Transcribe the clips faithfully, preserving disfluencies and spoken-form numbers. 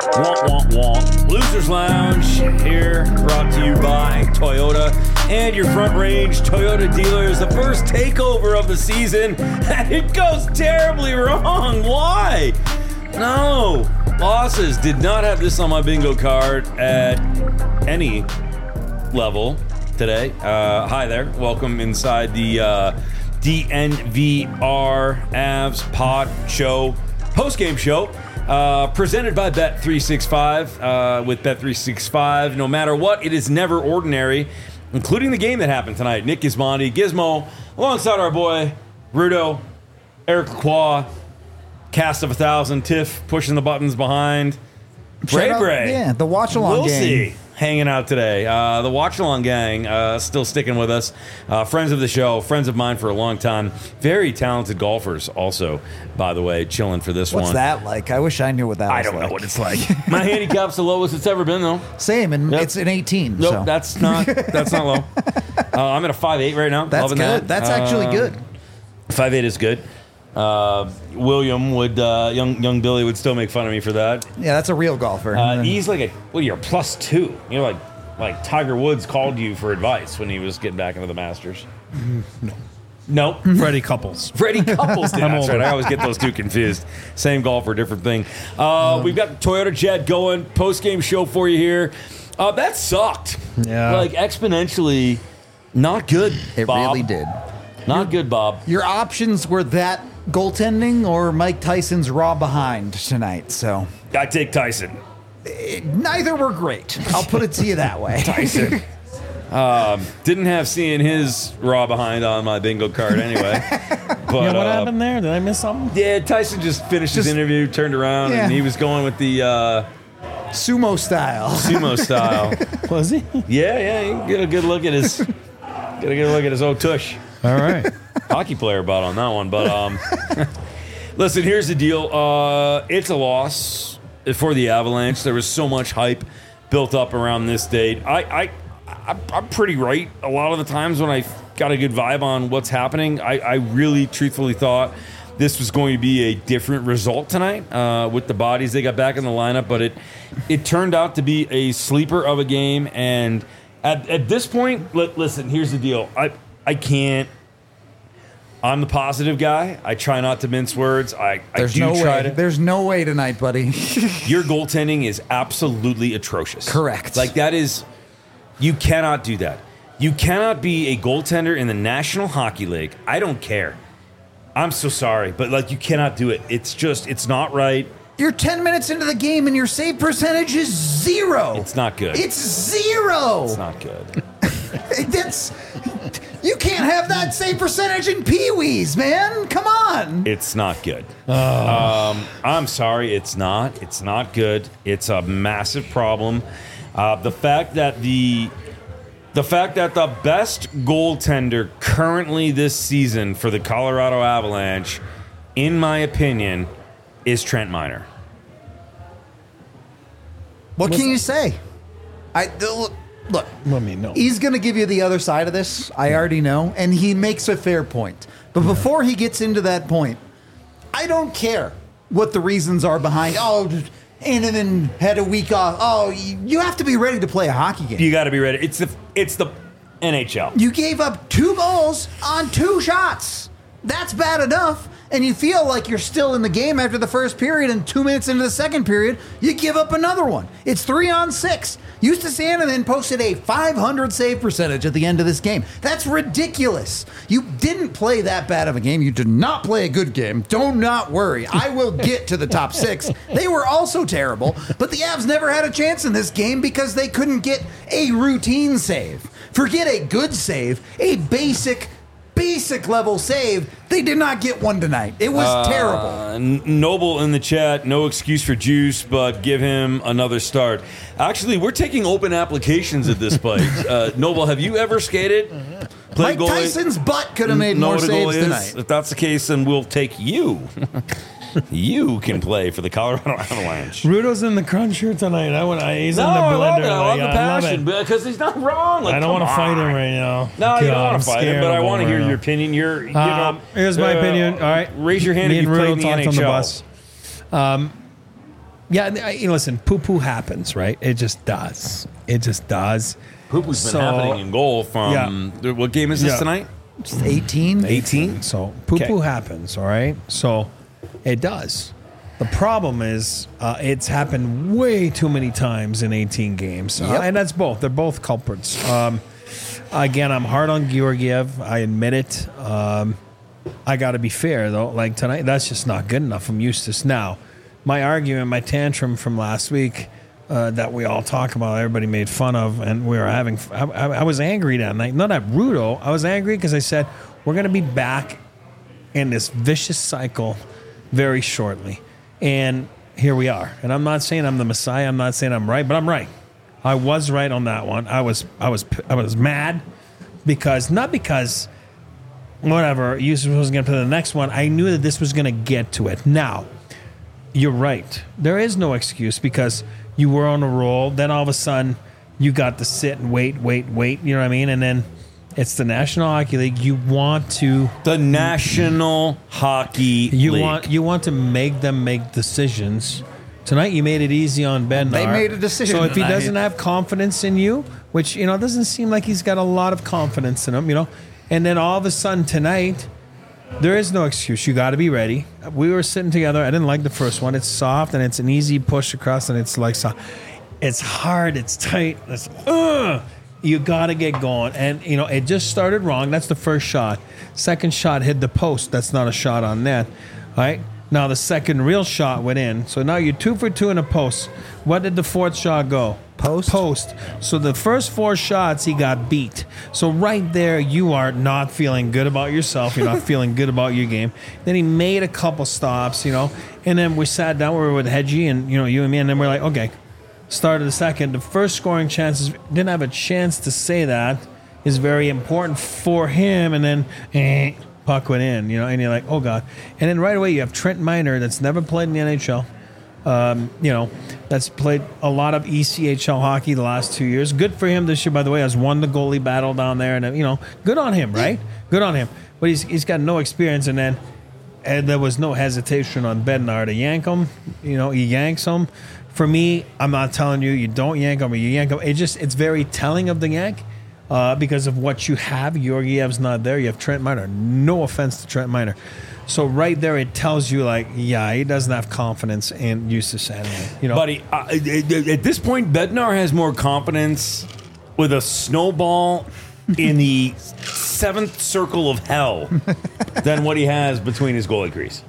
Womp, womp, womp. Losers Lounge here, brought to you by Toyota and your Front Range Toyota dealers. The first takeover of the season, and it goes terribly wrong. Why? No. Losses. Did not have this on my bingo card at any level today. Uh, hi there. Welcome inside the uh, D N V R Avs Pod Show, post-game show. Uh, presented by Bet three sixty-five. Uh, with Bet three sixty-five, no matter what, it is never ordinary, including the game that happened tonight. Nick Gismondi, Gizmo, alongside our boy Rudo, Eric Lacroix, cast of a thousand, Tiff pushing the buttons behind. Bray Bray. Yeah, the watch-along gang. Wilsey hanging out today. Uh, the watch-along gang uh, still sticking with us. Uh, friends of the show, friends of mine for a long time. Very talented golfers also, by the way, chilling for this What's one. What's that like? I wish I knew what that I was don't like. know what it's like. My handicap's the lowest it's ever been, though. Same, and Yep. it's an eighteen. Nope, so. that's not that's not low. Uh, I'm at a five eight right now. That's Loving good. that. That's actually Uh, good. five eight is good. Uh, William would, uh, young young Billy would still make fun of me for that. Yeah, that's a real golfer. Uh, he's like a, well, you're a plus two. You're like, like Tiger Woods called you for advice when he was getting back into the Masters. No. Nope. Freddie Couples. Freddie Couples did. I'm That's older. right. I always get those two confused. Same golfer, different thing. Uh, Um, we've got Toyota Jet going. Post-game show for you here. Uh, that sucked. Yeah. Like, exponentially not good, it Bob. really did. Not good, Bob. Your options were that goaltending or Mike Tyson's raw behind tonight, so I take Tyson. it, neither were great. I'll put it to you that way. Tyson. um, didn't have seeing his raw behind on my bingo card anyway. But, You know what uh, happened there? Did I miss something? Yeah, Tyson just finished his Just- interview, turned around, Yeah. and he was going with the uh, Sumo style. sumo style. Was he? Yeah, yeah, you can get a good look at his, get a good look at his old tush. All right. Hockey player about on that one, but um, listen, here's the deal. Uh, it's a loss for the Avalanche. There was so much hype built up around this date. I, I, I I'm pretty right a lot of the times when I got a good vibe on what's happening. I, I really, truthfully thought this was going to be a different result tonight uh, with the bodies they got back in the lineup, but it it turned out to be a sleeper of a game. And at, at this point, li- listen, here's the deal. I I can't. I'm the positive guy. I try not to mince words. I, There's I do no try way. to. There's no way tonight, buddy. Your goaltending is absolutely atrocious. Correct. Like, that is, you cannot do that. You cannot be a goaltender in the National Hockey League. I don't care. I'm so sorry, but like, you cannot do it. It's just, it's not right. You're ten minutes into the game and your save percentage is zero. It's not good. It's zero. It's not good. That's you can't have that save percentage in Pee-wees, man. Come on. It's not good. Um, I'm sorry, it's not. It's not good. It's a massive problem. Uh, the fact that the the fact that the best goaltender currently this season for the Colorado Avalanche, in my opinion, is Trent Miner. What can you say? I look. Look, Let me know. he's going to give you the other side of this. I already know, and he makes a fair point. But before he gets into that point, I don't care what the reasons are behind. Oh, Annanen had a week off. Oh, you you have to be ready to play a hockey game. You got to be ready. It's the it's the N H L. You gave up two goals on two shots. That's bad enough. And you feel like you're still in the game after the first period, and two minutes into the second period, you give up another one. It's three on six. Justus Annanen posted a five hundred save percentage at the end of this game. That's ridiculous. You didn't play that bad of a game. You did not play a good game. Do not worry. I will get to the top six. They were also terrible, but the Avs never had a chance in this game because they couldn't get a routine save. Forget a good save, a basic basic level save. They did not get one tonight. It was Uh, terrible. N- Noble in the chat, no excuse for Juice, but give him another start. Actually, we're taking open applications at this place. uh, Noble, have you ever skated? Played Mike goalie? Tyson's butt could have made Know more what a saves goalie is? tonight. If that's the case, then we'll take you. You can play for the Colorado Avalanche. Rudo's in the crunch shirt tonight. I want. I, he's No, in the I love blender. it. I love like, the I love passion it. because he's not wrong. Like, I don't come want to fight on. him right now. No, you don't God, want I'm to fight him, scared but I of want to him hear right your now. opinion. You're, you Um, know, here's my uh, opinion. All right, raise your hand Me if and you played Rudo in the talked N H L. on the bus. Um, Yeah, I, you know, listen, poo-poo happens, right? It just does. It just does. Poo-poo's been So- happening in goal from, what game is this Yeah. tonight? Just eighteen. eighteen? So poo-poo Okay. happens, all right? So it does. The problem is uh, it's happened way too many times in eighteen games. Uh, Yep. and that's both. They're both culprits. Um, again, I'm hard on Georgiev. I admit it. Um, I got to be fair, though. Like tonight, that's just not good enough from Eustace. Now, my argument, my tantrum from last week uh, that we all talk about, everybody made fun of, and we were having, I, I, I was angry that night. Not at Rudo. I was angry because I said, we're going to be back in this vicious cycle very shortly. And here we are. And I'm not saying I'm the Messiah. I'm not saying I'm right, but I'm right. I was right on that one. I was, I was, I was mad because, not because whatever, Eustace was going to play the next one. I knew that this was going to get to it. Now, you're right. There is no excuse because you were on a roll. Then all of a sudden, you got to sit and wait, wait, wait. You know what I mean? And then it's the National Hockey League. You want to, The National Hockey you League. want, you want to make them make decisions. Tonight, you made it easy on Bednar. They made a decision So if he tonight. doesn't have confidence in you, which you know doesn't seem like he's got a lot of confidence in him, you know, and then all of a sudden tonight. There is no excuse. You got to be ready. We were sitting together. I didn't like the first one. It's soft and it's an easy push across, and it's like so. It's hard. It's tight. It's uh, you got to get going. And you know it just started wrong. That's the first shot. Second shot hit the post. That's not a shot on net. All right. Now the second real shot went in. So now you're two for two in a post. What did the fourth shot go? Post? Post. So the first four shots, he got beat. So right there, you are not feeling good about yourself. You're not feeling good about your game. Then he made a couple stops, you know, and then we sat down. We were with Hedgie and, you know, you and me, and then we're like, okay, start of the second. The first scoring chances, didn't have a chance to say that, is very important for him. And then, eh, puck went in, you know, and you're like, oh, God. And then right away, you have Trent Miner that's never played in the N H L. Um, you know, that's played a lot of E C H L hockey the last two years. Good for him this year, by the way. Has won the goalie battle down there, and you know, good on him, right? Good on him. But he's he's got no experience, and then and there was no hesitation on Bednar to yank him. You know, he yanks him. For me, I'm not telling you you don't yank him or you yank him. It just it's very telling of the yank. Uh, because of what you have, Georgiev's not there. You have Trent Miner. No offense to Trent Miner. So right there, it tells you like, yeah, he doesn't have confidence in Eustace anyway. You know, Buddy, uh, at this point, Bednar has more confidence with a snowball in the seventh circle of hell than what he has between his goalie crease.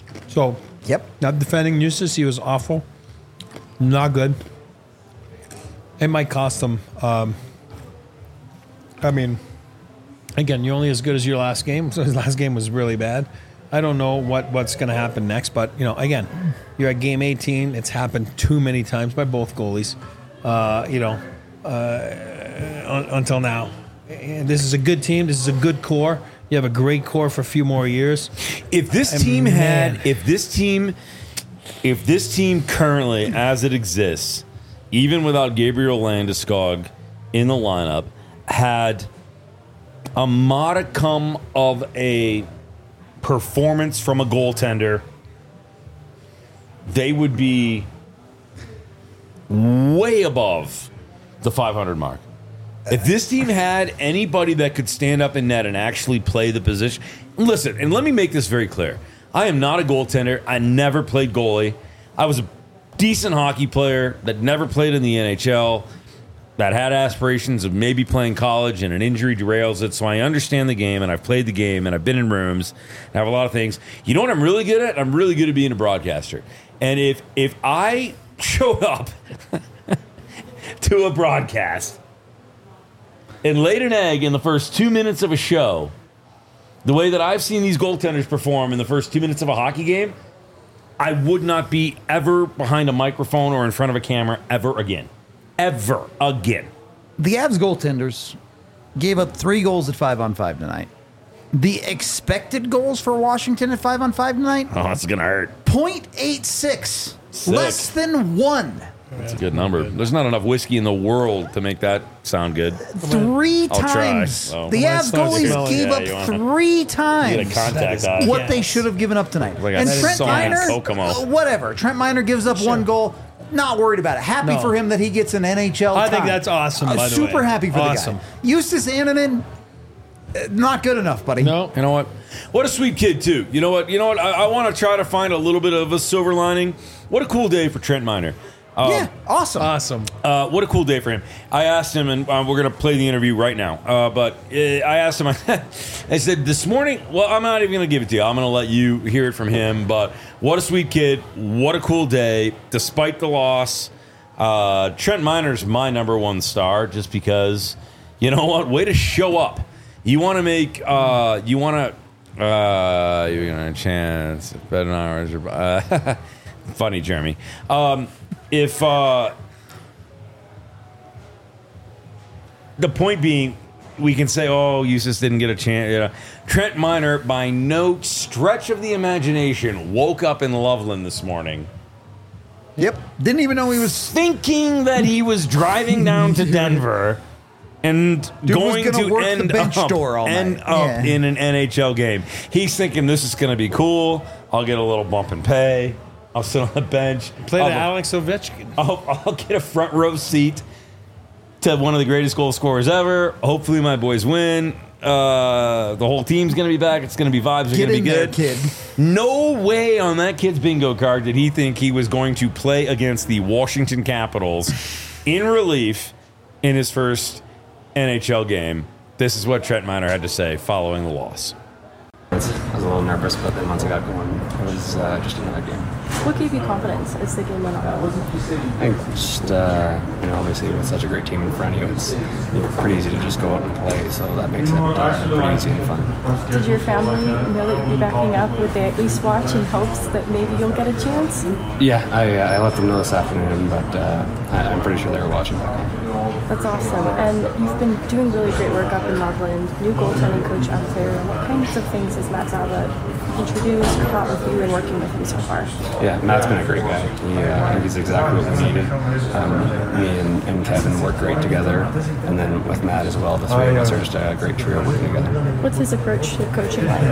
so Yep. not defending Eustace, he was awful, not good. It might cost him. Um, I mean, again, you're only as good as your last game. So his last game was really bad. I don't know what, what's going to happen next, but you know, again, you're at game eighteen. It's happened too many times by both goalies. Uh, you know, uh, un, until now, and this is a good team. This is a good core. You have a great core for a few more years. If this And team man. had, if this team, if this team currently as it exists, even without Gabriel Landeskog in the lineup, had a modicum of a performance from a goaltender, they would be way above the five hundred mark. If this team had anybody that could stand up in net and actually play the position, listen, and let me make this very clear. I am not a goaltender. I never played goalie. I was a decent hockey player that never played in the N H L, that had aspirations of maybe playing college, and an injury derails it. So I understand the game, and I've played the game, and I've been in rooms, and I have a lot of things. You know what I'm really good at? I'm really good at being a broadcaster. And if if I showed up to a broadcast and laid an egg in the first two minutes of a show, the way that I've seen these goaltenders perform in the first two minutes of a hockey game, I would not be ever behind a microphone or in front of a camera ever again. Ever again. The Avs goaltenders gave up three goals at five on five tonight. The expected goals for Washington at five on five tonight, Oh, it's going to hurt. point eight six. Sick. Less than one. That's a good number. There's not enough whiskey in the world to make that sound good. Three I'll try, times. so. The Well, Avs it's not goalies smelling. gave Yeah, up you wanna- three Get a times contact on. what Yes. they should have given up tonight. Like, and that is Trent so Miner, nice. Kokomo. uh, whatever. Trent Miner gives up one goal. Not worried about it. Happy No. for him that he gets an N H L I think time. that's awesome, Uh, by the super way. happy for Awesome. the guy. Eustace Annunen, uh, not good enough, buddy. No. You know what? What a sweet kid too. You know what? You know what? I, I want to try to find a little bit of a silver lining. What a cool day for Trent Miner. Um, Yeah, awesome. Awesome. Uh, what a cool day for him. I asked him, and uh, we're going to play the interview right now. Uh, but uh, I asked him, I said, this morning, well, I'm not even going to give it to you. I'm going to let you hear it from him. But what a sweet kid. What a cool day. Despite the loss, uh, Trent Miner's my number one star just because, you know what? Way to show up. You want to make, uh, you want to, uh, you're going to chance, better than ours. Uh, funny, Jeremy. Um, If uh, the point being, we can say, "Oh, Eustace didn't get a chance." You know, Trent Miner, by no stretch of the imagination, woke up in Loveland this morning Yep. Didn't even know he was. thinking that he was driving down to Denver and Dude was going gonna to work the end bench up, door all end night. up Yeah. in an N H L game. He's thinking this is going to be cool. I'll get a little bump in pay. I'll sit on the bench. Play I'll to Alex Ovechkin. I'll, I'll get a front row seat to one of the greatest goal scorers ever. Hopefully, my boys win. Uh, the whole team's going to be back. It's going to be vibes. Are Get going to in be there, good. kid. No way on that kid's bingo card did he think he was going to play against the Washington Capitals in relief in his first N H L game. This is what Trent Miner had to say following the loss. I was a little nervous, but then once I got going, it was uh, just another game. What gave you confidence as the game went on? I think just, uh, you know, obviously with such a great team in front of you, it's pretty easy to just go out and play, so that makes it uh, pretty easy and fun. Did your family know that you'd be backing up? Would they at least watch in hopes that maybe you'll get a chance? Yeah, I, uh, I let them know this afternoon, but uh, I, I'm pretty sure they were watching back home. That's awesome. And you've been doing really great work up in Loveland, new goaltending coach up there. What kinds of things has Matt Zaba introduced or taught with you and working with you so far? Yeah, Matt's been a great guy. He, uh, I think he's exactly what we needed. Um, me and, and Kevin work great together, and then with Matt as well, the three of us are just a great trio working together. What's his approach to coaching like?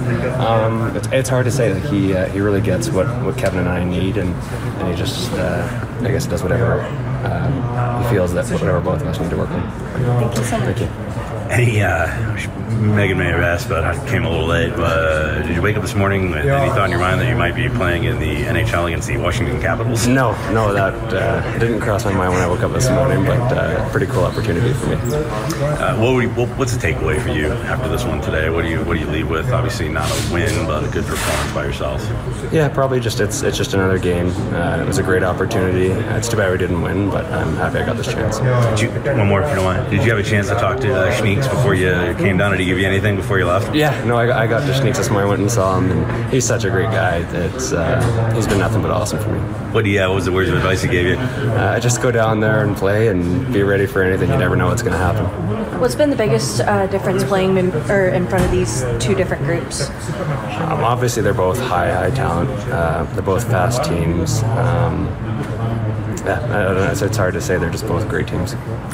Um, it's, it's hard to say. Like he uh, he really gets what, what Kevin and I need, and, and he just uh, I guess does whatever um, he feels that whatever both of us need to work on. Thank you so much. Thank you. Any, uh, Megan may have asked, but I came a little late. But uh, did you wake up this morning with any thought in your mind that you might be playing in the N H L against the Washington Capitals? No, no, that uh, didn't cross my mind when I woke up this morning, but uh, pretty cool opportunity for me. Uh, what were you, what, what's the takeaway for you after this one today? What do you what do you leave with? Obviously, not a win, but a good performance by yourselves. Yeah, probably just it's it's just another game. Uh, it was a great opportunity. It's too bad we didn't win, but I'm happy I got this chance. Did you, one more, if you don't mind. Did you have a chance to talk to uh, Schneeks before you came down? Did he give you anything before you left? Yeah, no, I, I got to Schneeks this morning, went and saw him, and he's such a great guy. It's uh, he's been nothing but awesome for me. What do you? Uh, what was the words of advice he gave you? Uh, just go down there and play, and be ready for anything. You never know what's going to happen. What's been the biggest uh, difference playing in, or in front of these two different groups? Um, obviously, they're both high, high talent. Uh, they're both fast teams. Um, yeah, I don't know. It's, it's hard to say. They're just both great teams.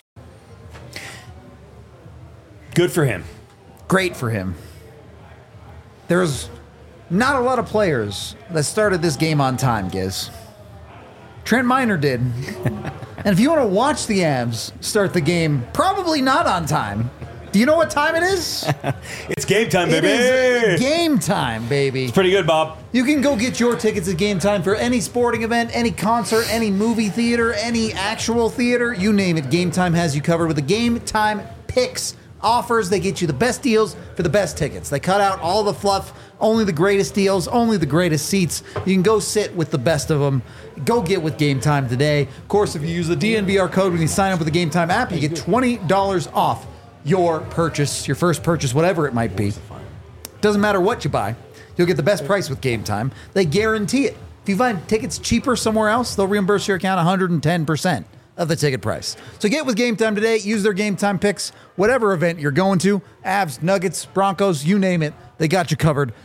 Good for him. Great for him. There's not a lot of players that started this game on time, Giz. Trent Miner did. And if you want to watch the Avs start the game, probably not on time. Do you know what time it is? It's game time, It baby. is game time, baby. Pretty good, Bob. You can go get your tickets at Game Time for any sporting event, any concert, any movie theater, any actual theater, you name it. Game Time has you covered with the Game Time Picks offers. They get you the best deals for the best tickets. They cut out all the fluff, only the greatest deals, only the greatest seats. You can go sit with the best of them. Go get with Game Time today. Of course, if you use the D N V R code when you sign up with the Game Time app, you get twenty dollars off your purchase, your first purchase, whatever it might be. Doesn't matter what you buy. You'll get the best price with Game Time. They guarantee it. If you find tickets cheaper somewhere else, they'll reimburse your account one hundred ten percent of the ticket price. So get with Game Time today. Use their Game Time picks. Whatever event you're going to, Avs, Nuggets, Broncos, you name it, they got you covered.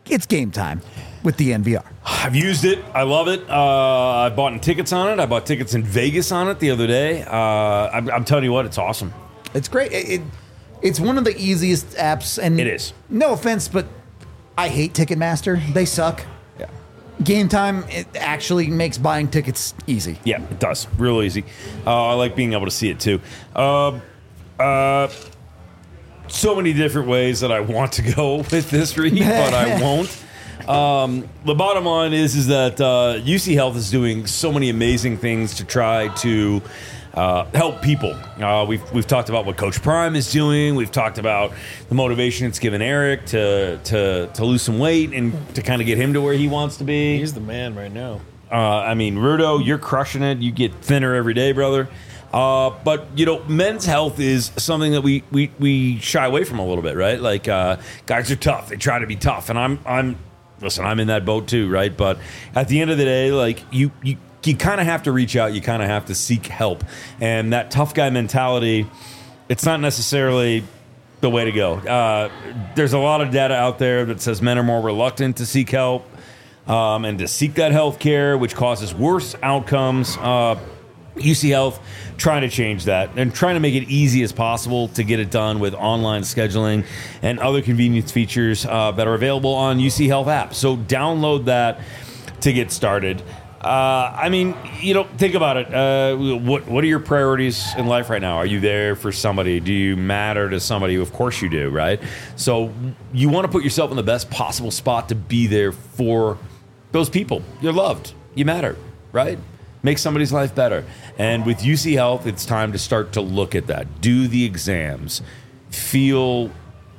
it's game time with the N V R. I've used it. I love it. Uh, I bought tickets on it. I bought tickets in Vegas on it the other day. Uh, I'm, I'm telling you what, it's awesome. It's great. It, it it's one of the easiest apps, and It is. No offense, but I hate Ticketmaster. They suck. Yeah. Game time, it actually makes buying tickets easy. Yeah, it does. Real easy. Uh, I like being able to see it too. Uh, uh, so many different ways that I want to go with this read, but I won't. Um, the bottom line is is that uh, U C Health is doing so many amazing things to try to uh, help people. Uh, we've we've talked about what Coach Prime is doing. We've talked about the motivation it's given Eric to to to lose some weight and to kind of get him to where he wants to be. He's the man right now. Uh, I mean, Rudo, you're crushing it. You get thinner every day, brother. Uh, but, you know, men's health is something that we, we, we shy away from a little bit, right? Like, uh, guys are tough. They try to be tough. And I'm, I'm, listen, I'm in that boat too, right? But at the end of the day, like, you, you, you kind of have to reach out. You kind of have to seek help. And that tough guy mentality, it's not necessarily the way to go. Uh, there's a lot of data out there that says men are more reluctant to seek help um, and to seek that health care, which causes worse outcomes. Uh, U C Health trying to change that and trying to make it easy as possible to get it done with online scheduling and other convenience features uh, that are available on U C Health app. So download that to get started. Uh, I mean, you know, think about it. Uh, what what are your priorities in life right now? Are you there for somebody? Do you matter to somebody? Of course you do, right? So you want to put yourself in the best possible spot to be there for those people. You're loved. You matter, right? Make somebody's life better. And with U C Health, it's time to start to look at that. Do the exams. Feel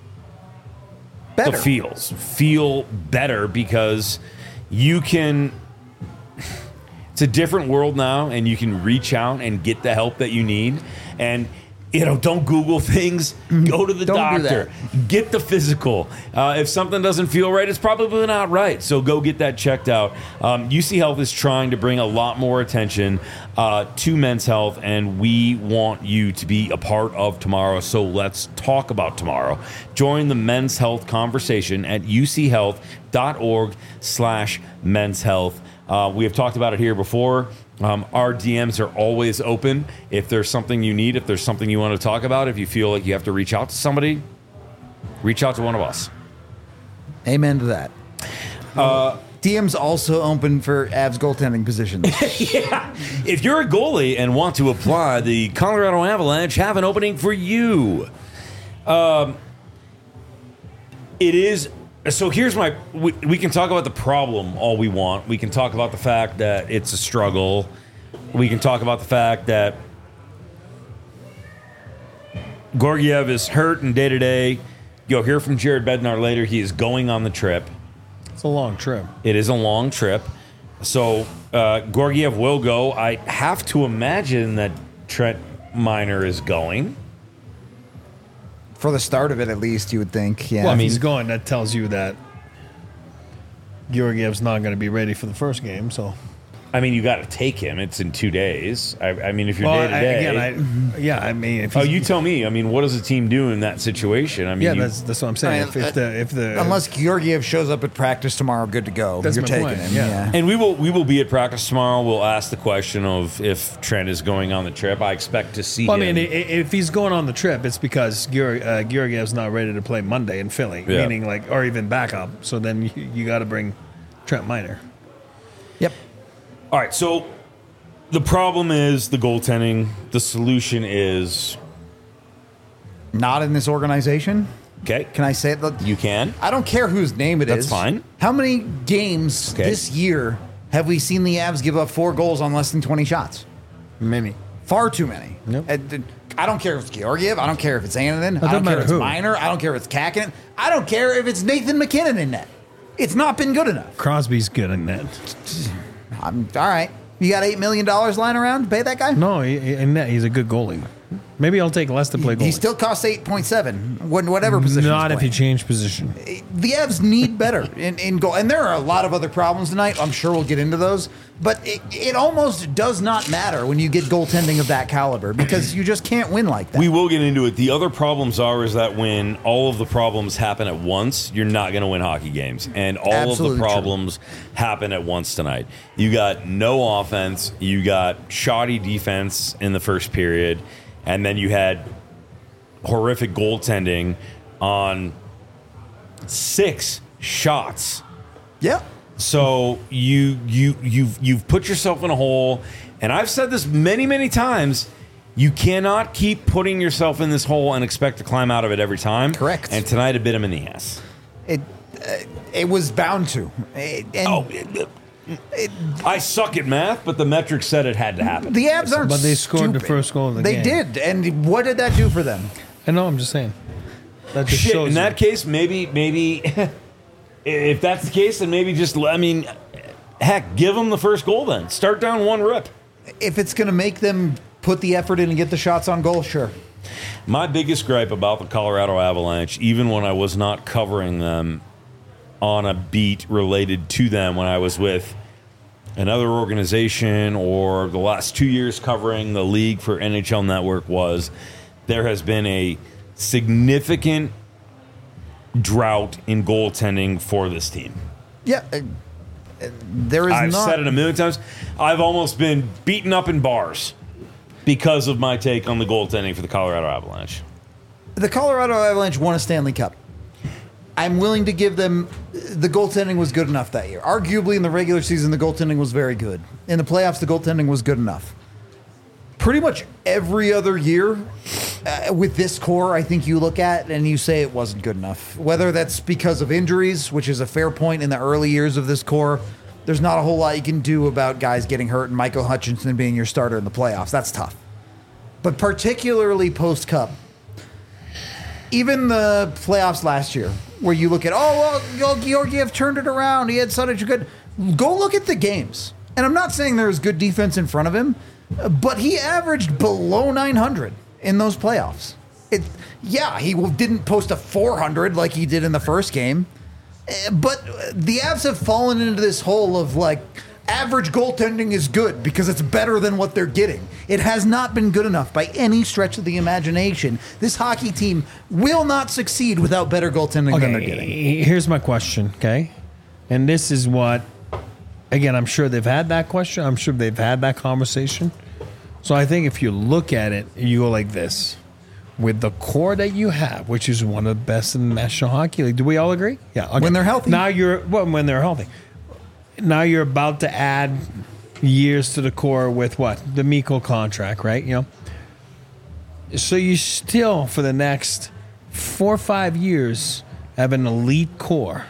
Better. the feels. Feel better because you can... It's a different world now, and you can reach out and get the help that you need. And, you know, don't Google things. Go to the Don't do doctor. Get the physical. Uh, if something doesn't feel right, it's probably not right. So go get that checked out. Um, U C Health is trying to bring a lot more attention uh, to men's health, and we want you to be a part of tomorrow. So let's talk about tomorrow. Join the men's health conversation at uchealth.org slash men's health. Uh, we have talked about it here before. Um, our D Ms are always open. If there's something you need, if there's something you want to talk about, if you feel like you have to reach out to somebody, reach out to one of us. Amen to that. Uh, D Ms also open for Avs goaltending positions. Yeah. If you're a goalie and want to apply, the Colorado Avalanche have an opening for you. Um, it is... So here's my... We, we can talk about the problem all we want. We can talk about the fact that it's a struggle. We can talk about the fact that Georgiev is hurt and day-to-day. You'll hear from Jared Bednar later. He is going on the trip. It's a long trip. It is a long trip. So uh, Georgiev will go. I have to imagine that Trent Miner is going. For the start of it, at least, you would think. Yeah. Well, I if mean- he's going, that tells you that Georgiev's not going to be ready for the first game. So, I mean, you got to take him. It's in two days. I, I mean, if you're well, day I, to day. again, I, yeah, I mean, if Oh, he's- you tell me. I mean, what does the team do in that situation? I mean, yeah, you, that's that's what I'm saying. I mean, if, if the if the Unless Georgiev shows up at practice tomorrow, good to go. That's You're my taking point, him. yeah. Yeah. and we will we will be at practice tomorrow. We'll ask the question of if Trent is going on the trip. I expect to see well, I him. mean, i- i- if he's going on the trip, it's because Georg, uh, Georgiev's not ready to play Monday in Philly, Yeah. meaning like, or even backup. So then you, you got to bring Trent Miner. Yep. All right, so the problem is the goaltending. The solution is Not in this organization. okay. Can I say it? Look, You can. I don't care whose name it is. That's fine. How many games Okay. this year have we seen the Avs give up four goals on less than twenty shots? Many. Far too many. Yep. And, I don't care if it's Georgiev. I don't care if it's Ananen. I doesn't don't care matter if it's who. Miner. I don't care if it's Kakinen. I don't care if it's Nathan McKinnon in net. It's not been good enough. Crosby's good in that. I'm all right. You got eight million dollars lying around? Pay that guy? No, he, he- in net, he's a good goalie. Maybe I'll take less to play goalie. He still costs eight point seven, whatever position. Not he's if you playing. change position. The Avs need better in, in goal. And there are a lot of other problems tonight. I'm sure we'll get into those. But it, it almost does not matter when you get goaltending of that caliber because you just can't win like that. We will get into it. The other problems are is that when all of the problems happen at once, you're not going to win hockey games. And all Absolutely of the true. problems happen at once tonight. You got no offense. You got shoddy defense in the first period. And then you had horrific goaltending on six shots. Yeah. So you you you've you've put yourself in a hole, and I've said this many many times. You cannot keep putting yourself in this hole and expect to climb out of it every time. Correct. And tonight it bit him in the ass. It uh, it was bound to. It, and Oh, it, it, I suck at math, but the metrics said it had to happen. the Avs aren't But they scored the stupid. first goal of the They game. did. And what did that do for them? I know, I'm just saying. That just Shit, shows in you. that case, maybe maybe if that's the case, then maybe just I mean, heck, give them the first goal then. Start down one rip. If it's going to make them put the effort in and get the shots on goal, sure. My biggest gripe about the Colorado Avalanche, even when I was not covering them on a beat related to them when I was with another organization or the last two years covering the league for N H L Network, was there has been a significant drought in goaltending for this team. Yeah. uh, uh, there is I've not. said it a million times. I've almost been beaten up in bars because of my take on the goaltending for the Colorado Avalanche. The Colorado Avalanche won a Stanley Cup. I'm willing to give them the goaltending was good enough that year. Arguably in the regular season, the goaltending was very good. In the playoffs, the goaltending was good enough. Pretty much every other year uh, with this core, I think you look at and you say it wasn't good enough. Whether that's because of injuries, which is a fair point in the early years of this core, there's not a whole lot you can do about guys getting hurt and Michael Hutchinson being your starter in the playoffs. That's tough. But particularly post-Cup, even the playoffs last year, where you look at, oh, well, Georgiev turned it around. He had such a good... Go look at the games. And I'm not saying there was good defense in front of him, but he averaged below nine hundred in those playoffs. It, yeah, he didn't post a four hundred like he did in the first game, but the Avs have fallen into this hole of, like, average goaltending is good because it's better than what they're getting. It has not been good enough by any stretch of the imagination. This hockey team will not succeed without better goaltending than they're getting. Here's my question, okay? And this is what, again, I'm sure they've had that question. I'm sure they've had that conversation. So I think if you look at it, you go like this. With the core that you have, which is one of the best in the National Hockey League, do we all agree? Yeah. Okay. When they're healthy. Now you're, well, when they're healthy. Now you're about to add years to the core with what? The Mikko contract, right? You know. So you still, for the next four or five years, have an elite core.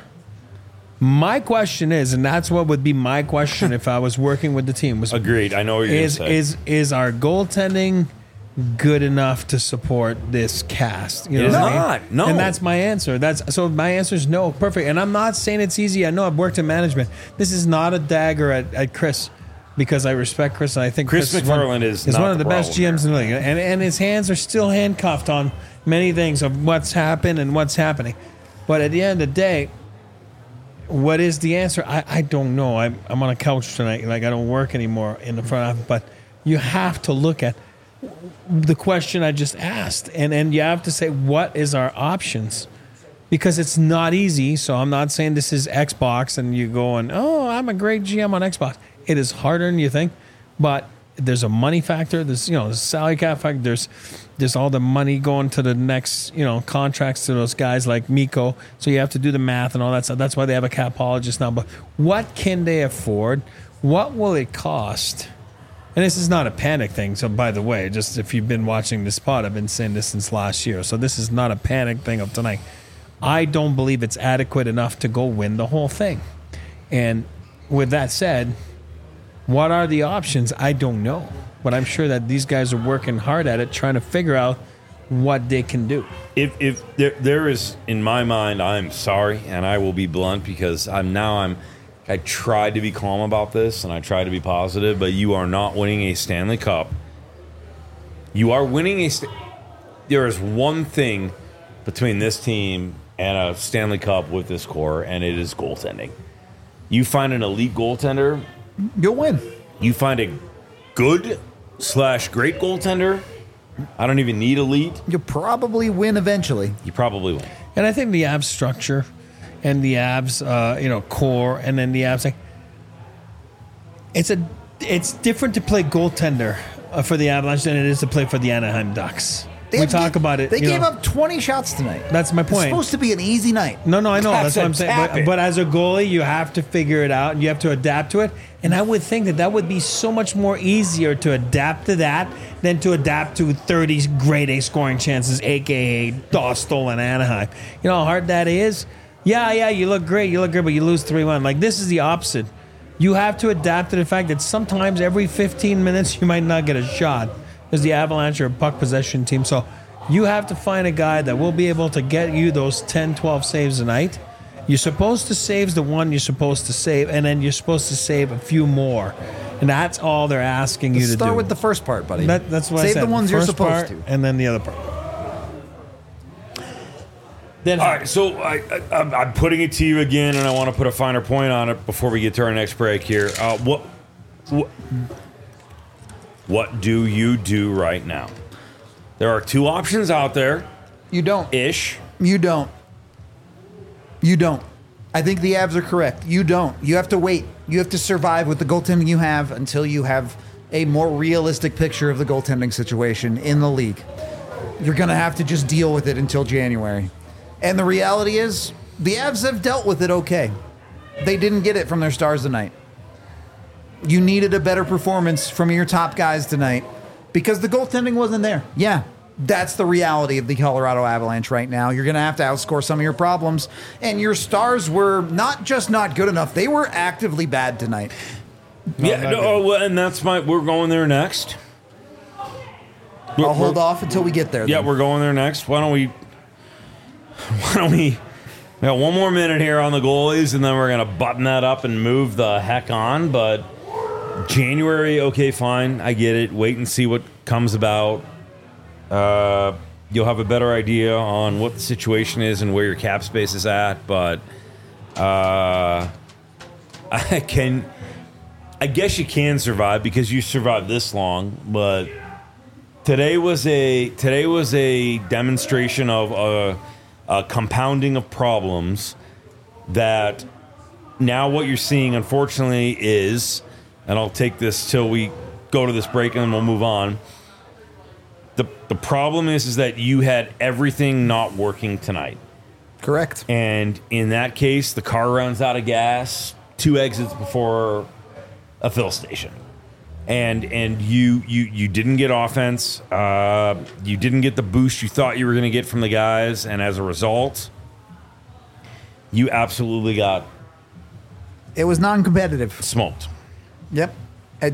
My question is, and that's what would be my question if I was working with the team, was Agreed. I know what you're going to is say. is is our goaltending good enough to support this cast? You know It is what I mean? not. No. And that's my answer. That's so my answer is no. Perfect. And I'm not saying it's easy. I know I've worked in management. This is not a dagger at, at Chris, because I respect Chris and I think Chris Chris, is one- McFarland is is not one of the the best problem G Ms in the league. And and his hands are still handcuffed on many things of what's happened and what's happening. But at the end of the day, what is the answer? I, I don't know. I'm, I'm on a couch tonight. Like, I don't work anymore in the front office. But you have to look at the question I just asked. And, and you have to say, what is our options? Because it's not easy. So I'm not saying this is Xbox and you going, oh, I'm a great G M on Xbox. It is harder than you think. But there's a money factor. There's, you know, there's salary cap factor. There's, there's all the money going to the next, you know, contracts to those guys like Mikko. So you have to do the math and all that stuff. That's why they have a capologist now. But what can they afford? What will it cost? And this is not a panic thing. So by the way, just if you've been watching this pod, I've been saying this since last year. So this is not a panic thing of tonight. I don't believe it's adequate enough to go win the whole thing. And with that said, what are the options? I don't know. But I'm sure that these guys are working hard at it, trying to figure out what they can do. If if there, there is, in my mind, I'm sorry, and I will be blunt because I'm now I'm I tried to be calm about this and I tried to be positive, but you are not winning a Stanley Cup You are winning a. St- there is one thing between this team and a Stanley Cup with this core, and it is goaltending. You find an elite goaltender, You'll win. you find a good slash great goaltender. I don't even need elite. You'll probably win eventually. You probably win. And I think the Avs structure and the Avs, uh, you know, core, and then the Avs, like, it's a, it's different to play goaltender uh, for the Avalanche than it is to play for the Anaheim Ducks. They we have- talk about it. They you gave know. up twenty shots tonight. That's my It's point. supposed to be an easy night. No, no, I know. That's, That's what a I'm saying. tap But, it. but as a goalie, you have to figure it out and you have to adapt to it. And I would think that that would be so much more easier to adapt to that than to adapt to thirty grade A scoring chances, aka Dostal and Anaheim. You know how hard that is? Yeah, yeah, you look great, you look great, but you lose three one. Like, this is the opposite. You have to adapt to the fact that sometimes every fifteen minutes you might not get a shot because the Avalanche are a puck possession team. So you have to find a guy that will be able to get you those ten, twelve saves a night. You're supposed to save the one you're supposed to save, and then you're supposed to save a few more. And that's all they're asking you to Start do. with the first part, buddy. That, that's what I Save said. the ones you're First supposed part, to. and then the other part. Then All right, so I, I, I'm- I'm putting it to you again, and I want to put a finer point on it before we get to our next break here. Uh, what, what, what do you do right now? There are two options out there, You don't. ish. You don't. You don't. I think the Avs are correct. You don't. You have to wait. You have to survive with the goaltending you have until you have a more realistic picture of the goaltending situation in the league. You're going to have to just deal with it until January. And the reality is, the Avs have dealt with it okay. They didn't get it from their stars tonight. You needed a better performance from your top guys tonight because the goaltending wasn't there. Yeah, that's the reality of the Colorado Avalanche right now. You're going to have to outscore some of your problems. And your stars were not just not good enough, they were actively bad tonight. Yeah, not no, oh, well, and that's my. We're going there next. I'll hold off until we get there. Yeah, then. we're going there next. Why don't we? Why don't we? We got one more minute here on the goalies, and then we're gonna button that up and move the heck on. But January, okay, fine, I get it. Wait and see what comes about. Uh, you'll have a better idea on what the situation is and where your cap space is at. But uh, I can, I guess you can survive because you survived this long. But today was a today was a demonstration of a. A compounding of problems that now what you're seeing, unfortunately, is, and I'll take this till we go to this break and then we'll move on. The the problem is, is that you had everything not working tonight. Correct. And in that case, the car runs out of gas two exits before a fill station. And and you you you didn't get offense. Uh, you didn't get the boost you thought you were going to get from the guys, and as a result, you absolutely got It was non-competitive. smoked. Yep. I,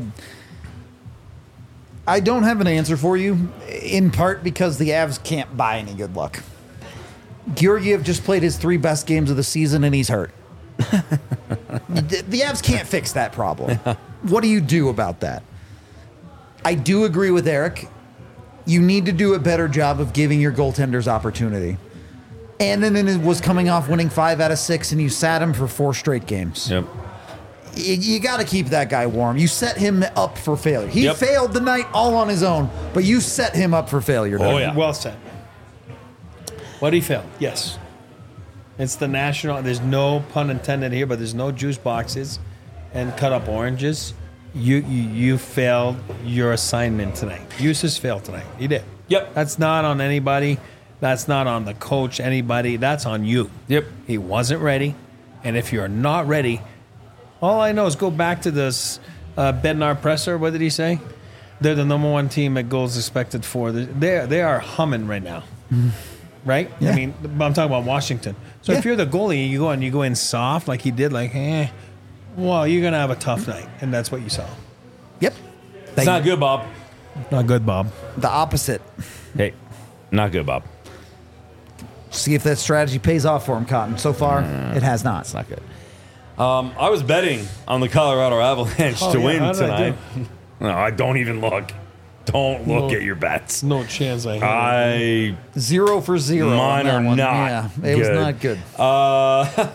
I don't have an answer for you, in part because the Avs can't buy any good luck. Georgiev just played his three best games of the season, and he's hurt. the, the Avs can't fix that problem. What do you do about that? I do agree with Eric. You need to do a better job of giving your goaltenders opportunity. And then it was coming off winning five out of six, and you sat him for four straight games. Yep. You, you got to keep that guy warm. You set him up for failure. He Yep. failed tonight all on his own, but you set him up for failure. Oh, Doug. yeah. Well said. What did he fail? Yes. It's the national. There's no pun intended here, but there's no juice boxes and cut up oranges. You you, you failed your assignment tonight. Eustace failed tonight. He did. Yep. That's not on anybody. That's not on the coach, anybody. That's on you. Yep. He wasn't ready. And if you're not ready, all I know is go back to this uh, Bednar Presser. What did he say? They're the number one team at goals expected for. They they are humming right now. Right? Yeah. I mean, I'm talking about Washington. So Yeah. if you're the goalie, you go and you go in soft like he did, like, eh, well, you're going to have a tough night. And that's what you saw. Yep. It's not good, Bob. Not good, Bob. The opposite. Hey, not good, Bob. See if that strategy pays off for him, Cotton. So far, it has not. It's not good. Um, I was betting on the Colorado Avalanche Oh, to yeah, win how did I tonight. No, I don't even look. Don't look No. at your bets. No chance I have. I Zero for zero. on Mine that are one. not Yeah, it was good. not good. Uh,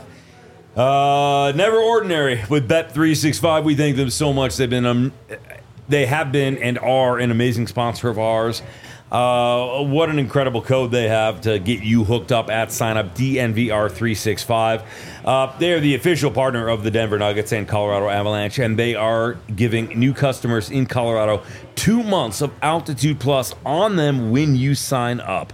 uh, Never Ordinary with Bet three sixty-five. We thank them so much. They've been um, they have been and are an amazing sponsor of ours. Uh, what an incredible code they have to get you hooked up at sign up, D N V R three sixty-five. Uh, they are the official partner of the Denver Nuggets and Colorado Avalanche, and they are giving new customers in Colorado two months of Altitude Plus on them when you sign up.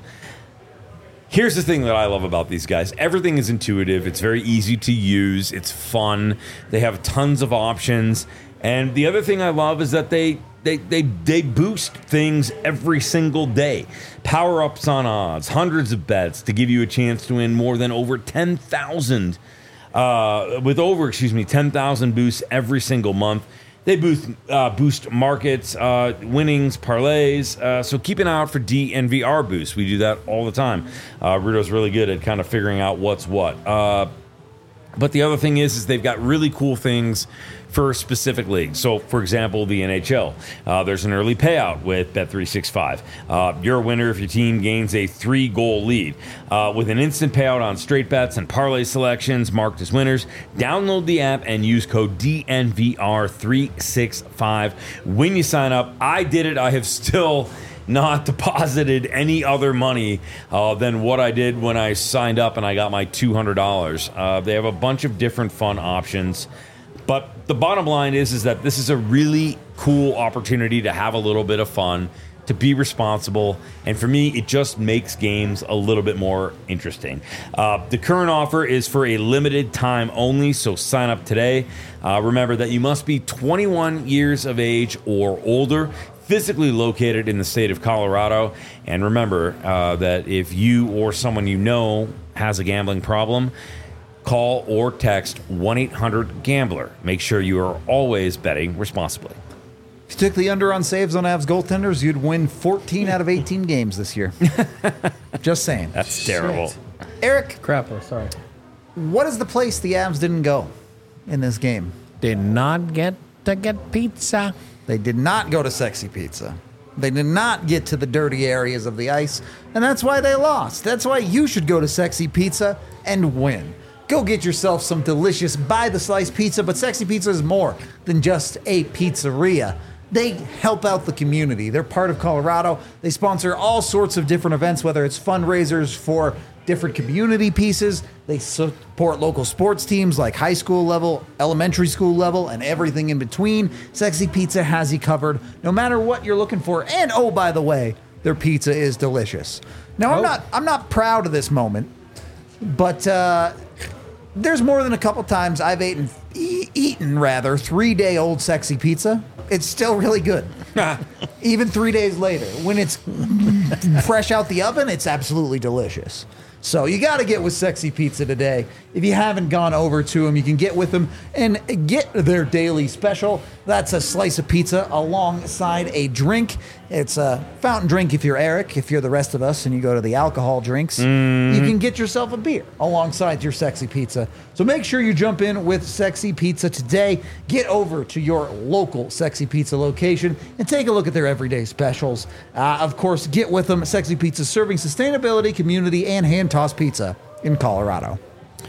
Here's the thing that I love about these guys. Everything is intuitive. It's very easy to use. It's fun. They have tons of options. And the other thing I love is that they they they, they boost things every single day. Power-ups on odds, hundreds of bets to give you a chance to win more than over ten thousand uh, with over, excuse me, ten thousand boosts every single month. They boost, uh, boost markets, uh, winnings, parlays. Uh, so keep an eye out for D N V R boosts. We do that all the time. Uh, Rudo's really good at kind of figuring out what's what. Uh, but the other thing is, is they've got really cool things for specific leagues. So, for example, the N H L. Uh, there's an early payout with Bet three sixty-five. Uh, you're a winner if your team gains a three-goal lead. Uh, with an instant payout on straight bets and parlay selections marked as winners, download the app and use code D N V R three sixty-five when you sign up. I did it. I have still not deposited any other money uh, than what I did when I signed up and I got my two hundred dollars. Uh, they have a bunch of different fun options. But the bottom line is, is that this is a really cool opportunity to have a little bit of fun, to be responsible, and for me, it just makes games a little bit more interesting. Uh, the current offer is for a limited time only, so sign up today. Uh, remember that you must be twenty-one years of age or older, physically located in the state of Colorado, and remember uh, that if you or someone you know has a gambling problem, call or text one eight hundred gambler. Make sure you are always betting responsibly. If you took the under on saves on Avs goaltenders, you'd win fourteen out of eighteen games this year. Just saying. That's terrible. Eric, Crapper, sorry. what is the place the Avs didn't go in this game? Did not get to get pizza. They did not go to Sexy Pizza. They did not get to the dirty areas of the ice, and that's why they lost. That's why you should go to Sexy Pizza and win. Go get yourself some delicious by-the-slice pizza, but Sexy Pizza is more than just a pizzeria. They help out the community. They're part of Colorado. They sponsor all sorts of different events, whether it's fundraisers for different community pieces. They support local sports teams like high school level, elementary school level, and everything in between. Sexy Pizza has you covered no matter what you're looking for. And oh, by the way, their pizza is delicious. Now, I'm Oh. not I'm not proud of this moment, but uh, there's more than a couple times I've eaten, e- eaten rather, three-day-old Sexy Pizza. It's still really good. Even three days later. When it's fresh out the oven, it's absolutely delicious. So you got to get with Sexy Pizza today. If you haven't gone over to them, you can get with them and get their daily special. That's a slice of pizza alongside a drink. It's a fountain drink if you're Eric. If you're the rest of us and you go to the alcohol drinks, mm. you can get yourself a beer alongside your Sexy Pizza. So make sure you jump in with Sexy Pizza today. Get over to your local Sexy Pizza location and take a look at their everyday specials. Uh, of course, get with them. Sexy Pizza serving sustainability, community, and hand-tossed pizza in Colorado.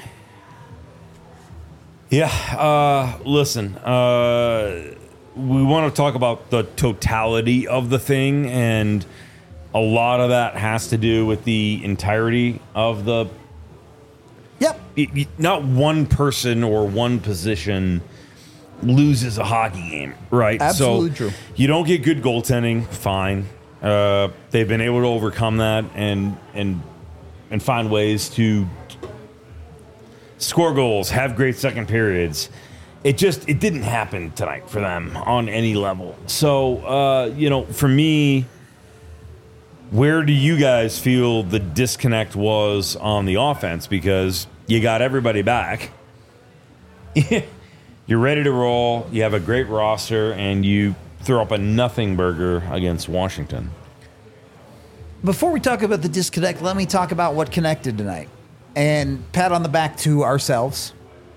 Yeah, uh, listen, uh, we want to talk about the totality of the thing, and a lot of that has to do with the entirety of the... Yep. It, it, not one person or one position loses a hockey game, right? Absolutely so true. You don't get good goaltending, fine. Uh, they've been able to overcome that and and and find ways to score goals, have great second periods. It just, it didn't happen tonight for them on any level. So, uh, you know, for me, where do you guys feel the disconnect was on the offense? Because you got everybody back. You're ready to roll. You have a great roster, and you throw up a nothing burger against Washington. Before we talk about the disconnect, let me talk about what connected tonight. And pat on the back to ourselves.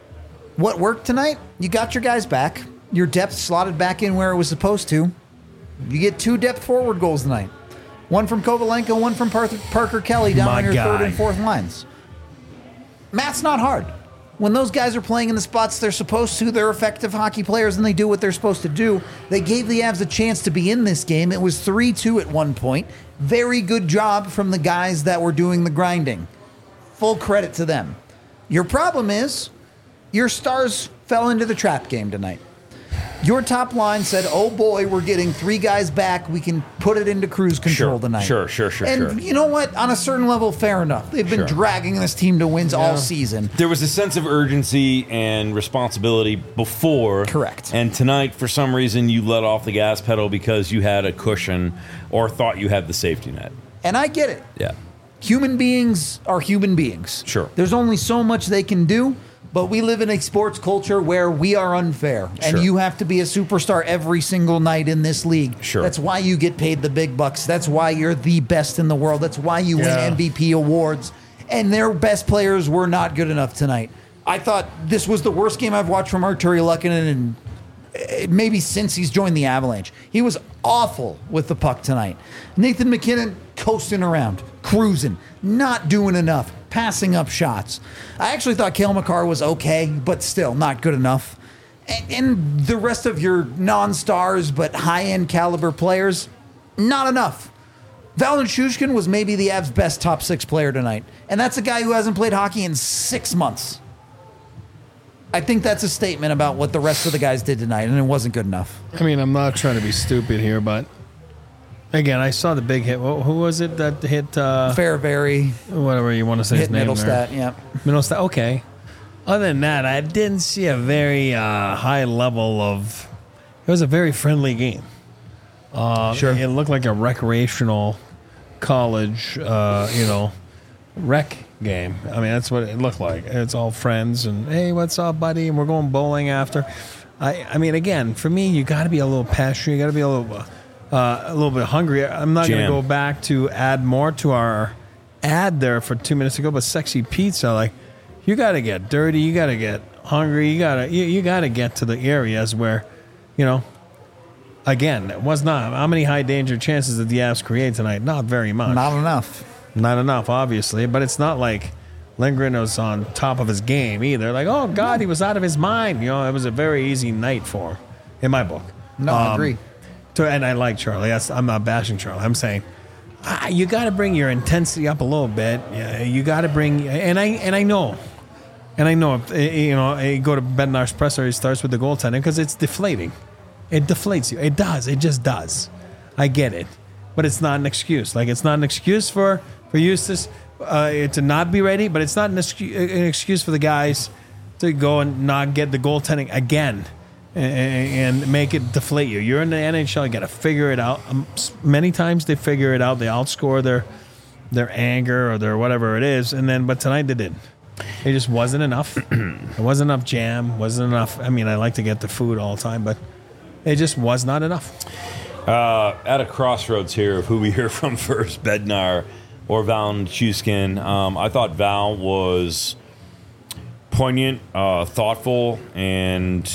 What worked tonight? You got your guys back. Your depth slotted back in where it was supposed to. You get two depth forward goals tonight. One from Kovalenko, one from Parker, Parker Kelly down My on your guy. third and fourth lines. Math's not hard. When those guys are playing in the spots they're supposed to, they're effective hockey players and they do what they're supposed to do. They gave the Avs a chance to be in this game. It was three two at one point. Very good job from the guys that were doing the grinding. Full credit to them. Your problem is your stars fell into the trap game tonight. Your top line said, oh boy, we're getting three guys back. We can put it into cruise control Sure, tonight. sure, sure, sure, And sure. you know what? On a certain level, fair enough. They've been Sure. dragging this team to wins all season. There was a sense of urgency and responsibility before. Correct. And tonight, for some reason, you let off the gas pedal because you had a cushion or thought you had the safety net. And I get it. Yeah. Human beings are human beings. Sure. There's only so much they can do, but we live in a sports culture where we are unfair. And Sure. you have to be a superstar every single night in this league. Sure. That's why you get paid the big bucks. That's why you're the best in the world. That's why you Yeah. win M V P awards. And their best players were not good enough tonight. I thought this was the worst game I've watched from Arturi Lehkonen in eh, maybe since he's joined the Avalanche. He was awful with the puck tonight. Nathan McKinnon coasting around, cruising, not doing enough, passing up shots. I actually thought Cale Makar was okay, but still not good enough. And, and the rest of your non-stars but high-end caliber players, not enough. Val Nichushkin was maybe the Avs' best top six player tonight, and that's a guy who hasn't played hockey in six months. I think that's a statement about what the rest of the guys did tonight, and it wasn't good enough. I mean, I'm not trying to be stupid here, but again, I saw the big hit. Who who was it that hit? Uh, Fairbury whatever you want to say his hit name Middlestat, there. yeah. Middlestat. Okay. Other than that, I didn't see a very uh, high level of. It was a very friendly game. Uh, Sure. It looked like a recreational college, uh, you know, rec game. I mean, that's what it looked like. It's all friends and hey, what's up, buddy? And we're going bowling after. I, I mean, again, for me, you got to be a little passionate. You got to be a little, uh, a little bit hungry. I'm not going to Jam. go back to add more to our ad there for two minutes ago, but sexy pizza, like you got to get dirty. You got to get hungry. You got to, you, you got to get to the areas where, you know. Again, it was not. How many high danger chances did the Avs create tonight? Not very much. Not enough. Not enough, obviously. But it's not like Lindgren was on top of his game either. Like, oh, God, he was out of his mind. You know, it was a very easy night for him, in my book. No, I Um, agree. To, and I like Charlie. That's, I'm not bashing Charlie. I'm saying ah, you got to bring your intensity up a little bit. Yeah, you got to bring, and I and I know, and I know, if, eh, you know, you go to Bednar's presser, he starts with the goaltending because it's deflating. It deflates you. It does. It just does. I get it, but it's not an excuse. Like it's not an excuse for for Eustace uh, to not be ready, but it's not an excuse, an excuse for the guys to go and not get the goaltending again and, and make it deflate you. You're in the N H L. You got to figure it out. Um, many times they figure it out. They outscore their their anger or their whatever it is, and then but tonight they didn't. It just wasn't enough. It wasn't enough jam. Wasn't enough. I mean, I like to get the food all the time, but. It just was not enough. Uh, at a crossroads here of who we hear from first, Bednar or Val Nichushkin. Um, I thought Val was poignant, uh, thoughtful, and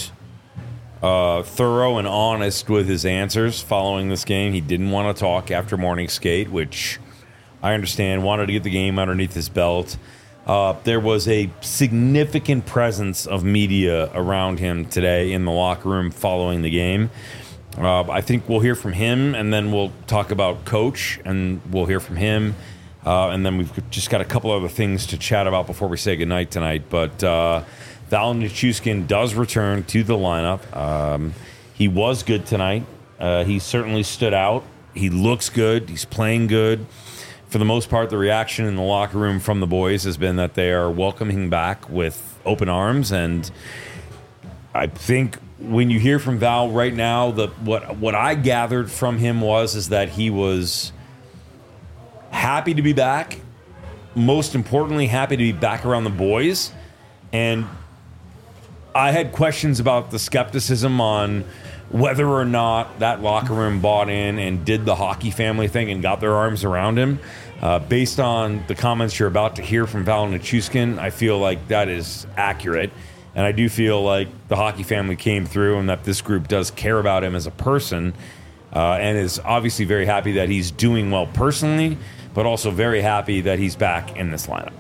uh, thorough and honest with his answers following this game. He didn't want to talk after morning skate, which I understand. Wanted to get the game underneath his belt. Uh, there was a significant presence of media around him today in the locker room following the game. Uh, I think we'll hear from him, and then we'll talk about Coach, and we'll hear from him. Uh, and then we've just got a couple other things to chat about before we say goodnight tonight. But uh, Val Nichushkin does return to the lineup. Um, he was good tonight. Uh, he certainly stood out. He looks good. He's playing good. For the most part, the reaction in the locker room from the boys has been that they are welcoming him back with open arms. And I think when you hear from Val right now, the what what I gathered from him was is that he was happy to be back. Most importantly, happy to be back around the boys. And I had questions about the skepticism on whether or not that locker room bought in and did the hockey family thing and got their arms around him. Uh, based on the comments you're about to hear from Val Nichushkin, I feel like that is accurate. And I do feel like the hockey family came through and that this group does care about him as a person. uh, and is obviously very happy that he's doing well personally, but also very happy that he's back in this lineup.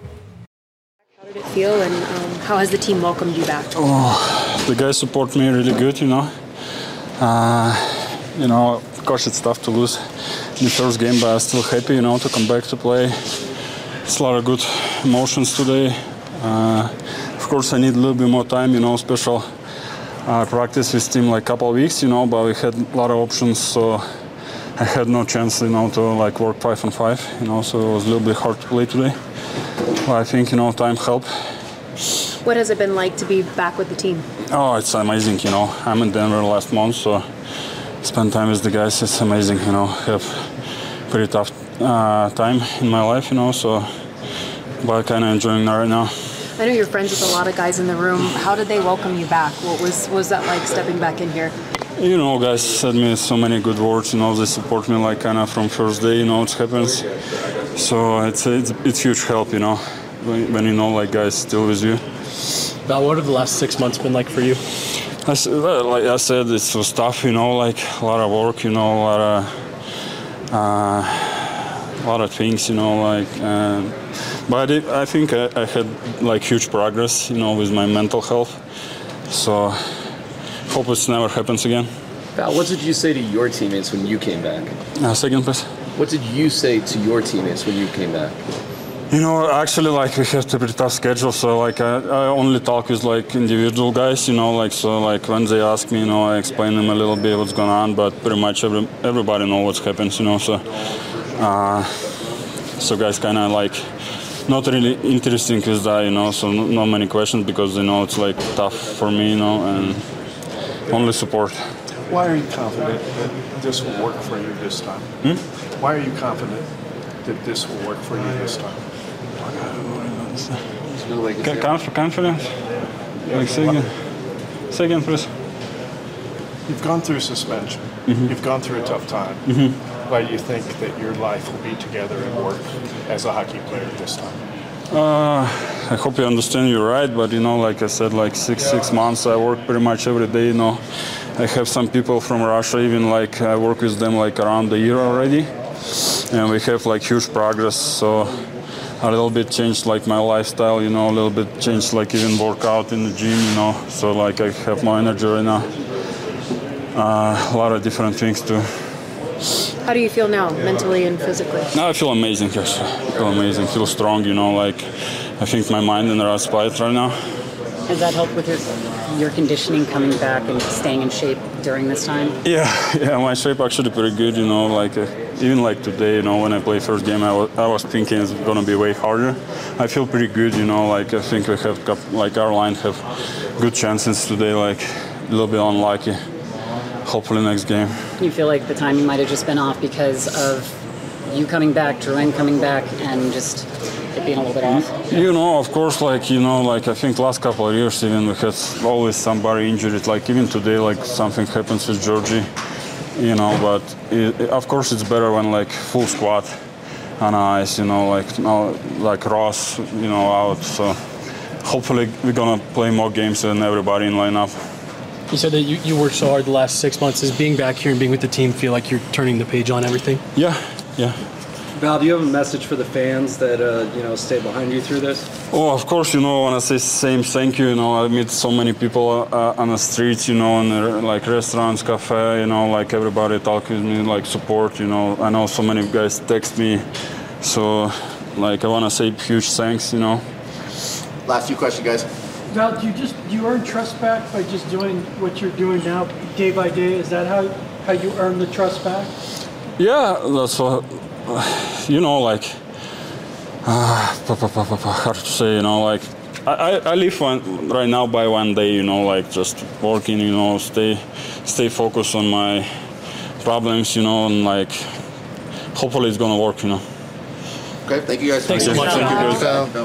How did it feel, and um, how has the team welcomed you back? Oh, the guys support me really good, you know. Uh, you know, of course it's tough to lose in the first game, but I'm still happy, you know, to come back to play. It's a lot of good emotions today. Uh, of course, I need a little bit more time, you know, special uh, practice with team like couple of weeks, you know, but we had a lot of options, so I had no chance, you know, to like work five on five, you know, so it was a little bit hard to play today. But I think, you know, time helped. What has it been like to be back with the team? Oh, it's amazing, you know. I'm in Denver last month, so spend time with the guys. It's amazing, you know. Have pretty tough uh, time in my life, you know. So, but kind of enjoying that right now. I know you're friends with a lot of guys in the room. How did they welcome you back? What was what was that like stepping back in here? You know, guys said me so many good words. You know, they support me like kind of from first day. You know, it happens. So it's it's it's huge help. You know, when, when you know like guys still with you. Val, what have the last six months been like for you? I, well, like I said, it was tough, you know, like a lot of work, you know, a lot of, uh, a lot of things, you know, like, uh, but it, I think I, I had like huge progress, you know, with my mental health. So hope it never happens again. Val, what did you say to your teammates when you came back? Uh, second, please. What did you say to your teammates when you came back? You know, actually, like, we have a pretty tough schedule, so, like, I, I only talk with, like, individual guys, you know, like, so, like, when they ask me, you know, I explain them a little bit what's going on, but pretty much every, everybody knows what happens, you know, so, uh, so guys kind of, like, not really interesting with that, you know, so no, not many questions because, you know, it's, like, tough for me, you know, and only support. Why are you confident that this will work for you this time? Hmm? Why are you confident that this will work for you this time? Conf- confidence? Like, say again. Say again, please. You've gone through suspension. Mm-hmm. You've gone through a tough time. Mm-hmm. Why do you think that your life will be together and work as a hockey player this time? Uh, I hope you understand you're right, but, you know, like I said, like six, six months, I work pretty much every day, you know. I have some people from Russia, even, like, I work with them, like, around the year already. And we have, like, huge progress, so a little bit changed like my lifestyle, you know, a little bit changed like even workout in the gym, you know, so like I have more energy right now. Uh, a lot of different things too. How do you feel now, mentally and physically? No, I feel amazing, yes. I feel amazing, feel strong, you know, like I think my mind in the right spot right now. Has that helped with your your conditioning coming back and staying in shape during this time? Yeah, yeah, my shape actually pretty good, you know, like uh, even like today, you know, when I play first game, I was, I was thinking it's gonna be way harder. I feel pretty good, you know, like I think we have, like our line have good chances today, like a little bit unlucky. Hopefully next game. You feel like the timing might have just been off because of you coming back, Drouin coming back, and just it being a little bit off? You know, of course, like, you know, like I think last couple of years even we had always somebody injured. Like even today, like something happens with Georgie, you know, but it, of course it's better when like full squad on ice, you know, like no, like Ross, you know, out. So hopefully we're gonna play more games than everybody in lineup. You said that you, you worked so hard the last six months. Does being back here and being with the team feel like you're turning the page on everything? Yeah, yeah. Val, do you have a message for the fans that uh, you know stay behind you through this? Oh, of course, you know, I want to say same thank you. You know, I meet so many people uh, on the streets, you know, in the, like restaurants, cafe, you know, like everybody talk with me, like support, you know. I know so many guys text me, so like I want to say huge thanks, you know. Last few questions, guys. Val, do you just do you earn trust back by just doing what you're doing now, day by day? Is that how how you earn the trust back? Yeah, that's what, you know, like uh, hard to say, you know, like I, I live one, right now by one day, you know, like just working, you know, stay stay focused on my problems, you know, and like hopefully it's gonna work, you know. Okay, thank you guys. Thanks so much. Thank you guys.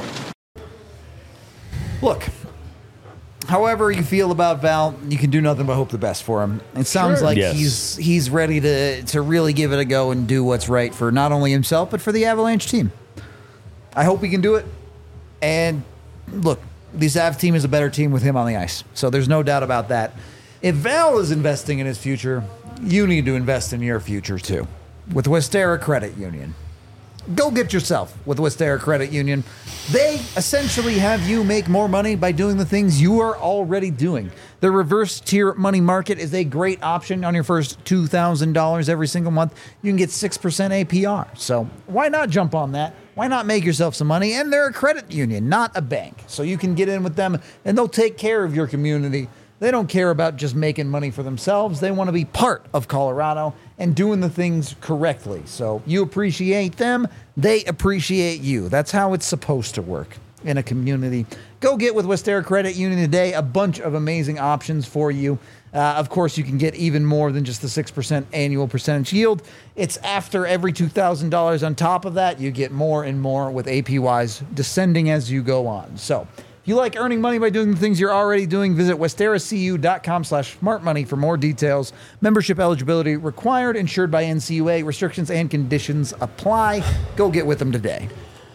Look, however you feel about Val, you can do nothing but hope the best for him. It sounds Sure. like Yes. he's he's ready to to really give it a go and do what's right for not only himself but for the Avalanche team. I hope he can do it. And look, this Avs team is a better team with him on the ice, so there's no doubt about that. If Val is investing in his future, you need to invest in your future too with Westera Credit Union. Go get yourself with Westera Credit Union. They essentially have you make more money by doing the things you are already doing. The reverse tier money market is a great option on your first two thousand dollars every single month. You can get six percent A P R. So why not jump on that? Why not make yourself some money? And they're a credit union, not a bank. So you can get in with them and they'll take care of your community. They don't care about just making money for themselves. They want to be part of Colorado and doing the things correctly. So you appreciate them, they appreciate you. That's how it's supposed to work in a community. Go get with Westera Credit Union today. A bunch of amazing options for you. Uh, of course, you can get even more than just the six percent annual percentage yield. It's after every two thousand dollars on top of that, you get more and more with A P Ys descending as you go on. So if you like earning money by doing the things you're already doing, visit westeracu.com slash smartmoney for more details. Membership eligibility required, insured by N C U A. Restrictions and conditions apply. Go get with them today.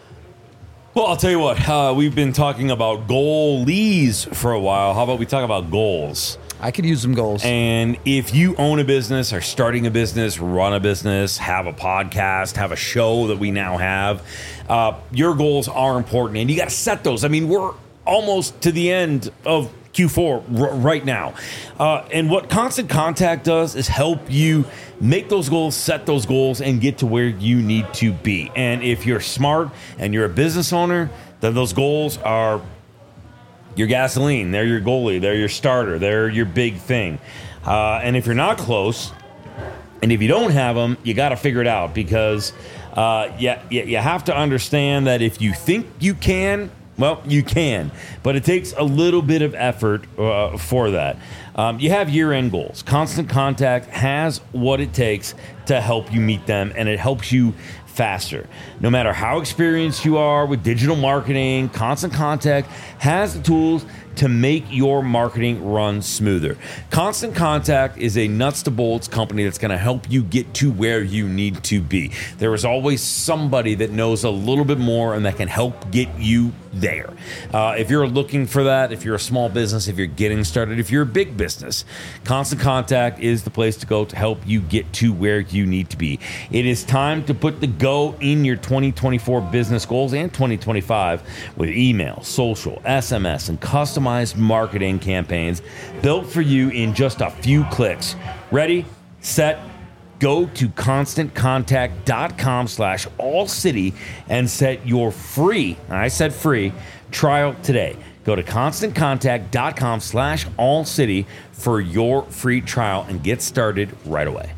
Well, I'll tell you what, uh, we've been talking about goalies for a while. How about we talk about goals? I could use some goals. And if you own a business, are starting a business, run a business, have a podcast, have a show that we now have, uh, your goals are important, and you got to set those. I mean, we're almost to the end of Q four r- right now. Uh, and what Constant Contact does is help you make those goals, set those goals, and get to where you need to be. And if you're smart and you're a business owner, then those goals are your gasoline. They're your goalie. They're your starter. They're your big thing. Uh, and if you're not close, and if you don't have them, you got to figure it out, because uh, you, you, you have to understand that if you think you can, well, you can, but it takes a little bit of effort uh, for that. Um, you have year-end goals. Constant Contact has what it takes to help you meet them, and it helps you faster. No matter how experienced you are with digital marketing, Constant Contact has the tools to make your marketing run smoother. Constant Contact is a nuts to bolts company that's going to help you get to where you need to be. There is always somebody that knows a little bit more and that can help get you there. Uh, if you're looking for that, if you're a small business, if you're getting started, if you're a big business, Constant Contact is the place to go to help you get to where you need to be. It is time to put the go in your twenty twenty-four business goals and twenty twenty-five with email, social, S M S, and customized marketing campaigns built for you in just a few clicks. Ready, set, go to constantcontact.com slash all city and set your free, and I said free, trial today. Go to constantcontact.com slash all city for your free trial and get started right away.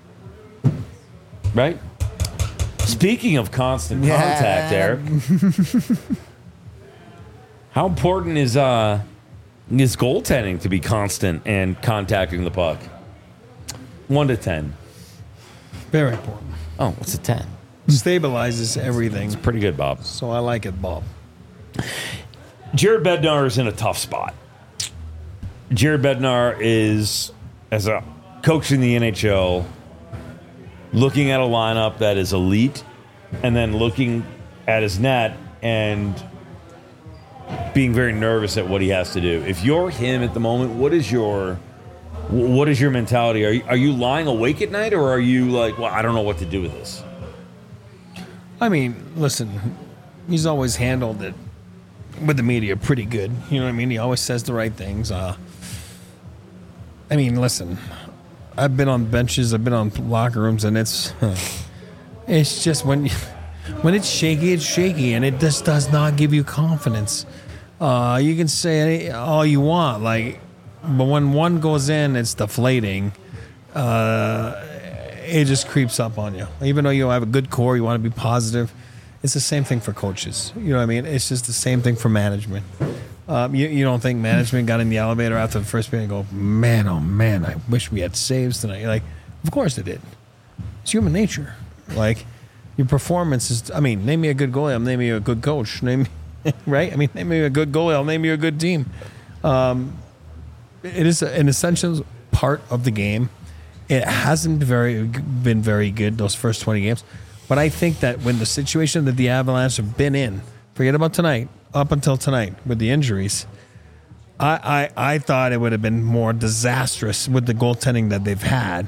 Right? Speaking of constant Yeah. contact, Eric, how important is uh is goaltending to be constant and contacting the puck? One to ten. Very important. Oh, what's a ten? Stabilizes everything. It's pretty good, Bob. So I like it, Bob. Jared Bednar is in a tough spot. Jared Bednar is, as a coach in the N H L, looking at a lineup that is elite, and then looking at his net and being very nervous at what he has to do. If you're him at the moment, what is your what is your mentality? Are you, are you lying awake at night, or are you like, well, I don't know what to do with this? I mean, listen, he's always handled it with the media pretty good. You know what I mean? He always says the right things. Uh, I mean, listen, I've been on benches, I've been on locker rooms, and it's it's just when you, when it's shaky, it's shaky, and it just does not give you confidence. Uh, you can say all you want, like, but when one goes in, it's deflating. Uh, it just creeps up on you. Even though you have a good core, you want to be positive. It's the same thing for coaches. You know what I mean? It's just the same thing for management. Um, you, you don't think management got in the elevator after the first period and go, man, oh man, I wish we had saves tonight. You're like, of course they did. It's human nature. Like, your performance is, I mean, name me a good goalie, I'll name you a good coach. Name me, right? I mean, name me a good goalie, I'll name you a good team. Um, it is an essential part of the game. It hasn't very been very good those first twenty games. But I think that when the situation that the Avalanche have been in, forget about tonight, up until tonight with the injuries, I, I, I thought it would have been more disastrous with the goaltending that they've had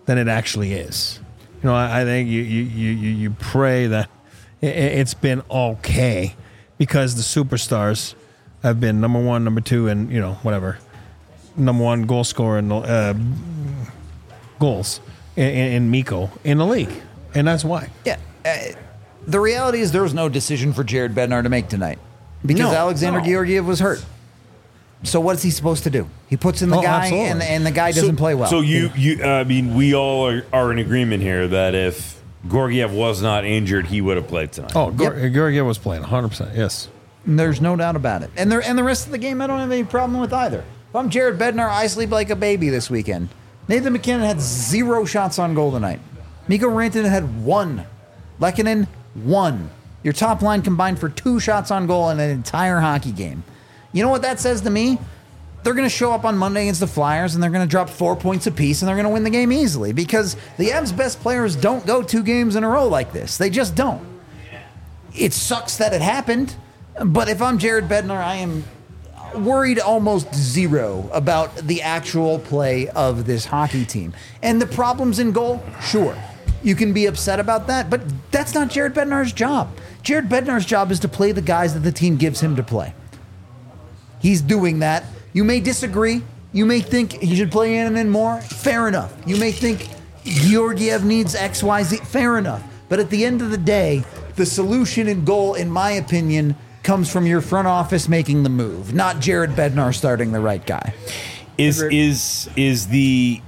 than it actually is. You know, I, I think you, you, you, you pray that it, it's been okay because the superstars have been number one, number two, and, you know, whatever, number one goal scorer and uh, goals in, in Mikko in the league. And that's why. Yeah. Uh, the reality is there was no decision for Jared Bednar to make tonight because No, Alexander no. Georgiev was hurt. So what's he supposed to do? He puts in the Oh, guy, absolutely. and, and the guy doesn't so, play well. So you, you, I mean, we all are, are in agreement here that if Georgiev was not injured, he would have played tonight. Oh, Gor- Georgiev was playing one hundred percent, yes. There's no doubt about it. And there, and the rest of the game, I don't have any problem with either. If I'm Jared Bednar, I sleep like a baby this weekend. Nathan McKinnon had zero shots on goal tonight. Mikko Rantanen had one. Lehkonen, one. Your top line combined for two shots on goal in an entire hockey game. You know what that says to me? They're going to show up on Monday against the Flyers, and they're going to drop four points apiece, and they're going to win the game easily because the Avs' best players don't go two games in a row like this. They just don't. It sucks that it happened, but if I'm Jared Bednar, I am worried almost zero about the actual play of this hockey team. And the problems in goal, sure. You can be upset about that, but that's not Jared Bednar's job. Jared Bednar's job is to play the guys that the team gives him to play. He's doing that. You may disagree. You may think he should play Annunen more. Fair enough. You may think Georgiev needs X, Y, Z. Fair enough. But at the end of the day, the solution in goal, in my opinion, comes from your front office making the move, not Jared Bednar starting the right guy. Is is is the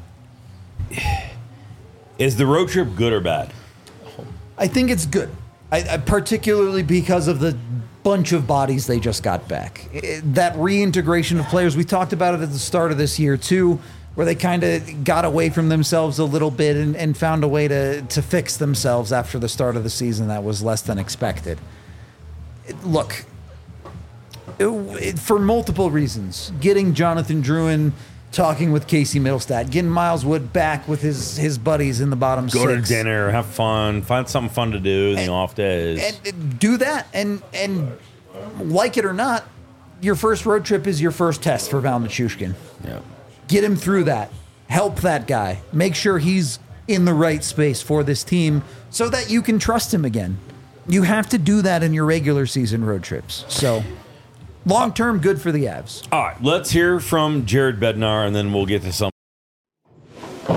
is the road trip good or bad? I think it's good, I, I, particularly because of the bunch of bodies they just got back. It, that reintegration of players, we talked about it at the start of this year too, where they kind of got away from themselves a little bit and, and found a way to, to fix themselves after the start of the season that was less than expected. It, look, it, it, for multiple reasons, getting Jonathan Drouin talking with Casey Middlestat, getting Miles Wood back with his, his buddies in the bottom Go six. to dinner, have fun, find something fun to do in the off days. And, and do that, and and like it or not, your first road trip is your first test for Val Nichushkin. Yeah. Get him through that. Help that guy. Make sure he's in the right space for this team so that you can trust him again. You have to do that in your regular season road trips. So, long term, good for the Avs. All right, let's hear from Jared Bednar, and then we'll get to some. Go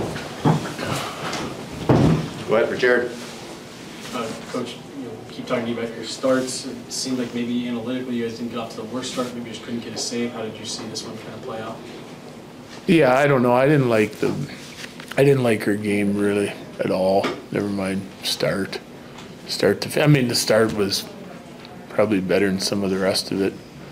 ahead for Jared. Uh, Coach, you know, keep talking to you about your starts. It seemed like maybe analytically you guys didn't get off to the worst start. Maybe you just couldn't get a save. How did you see this one kind of play out? Yeah, I don't know. I didn't like the, I didn't like her game really at all. Never mind start, start to. I mean, the start was probably better than some of the rest of it.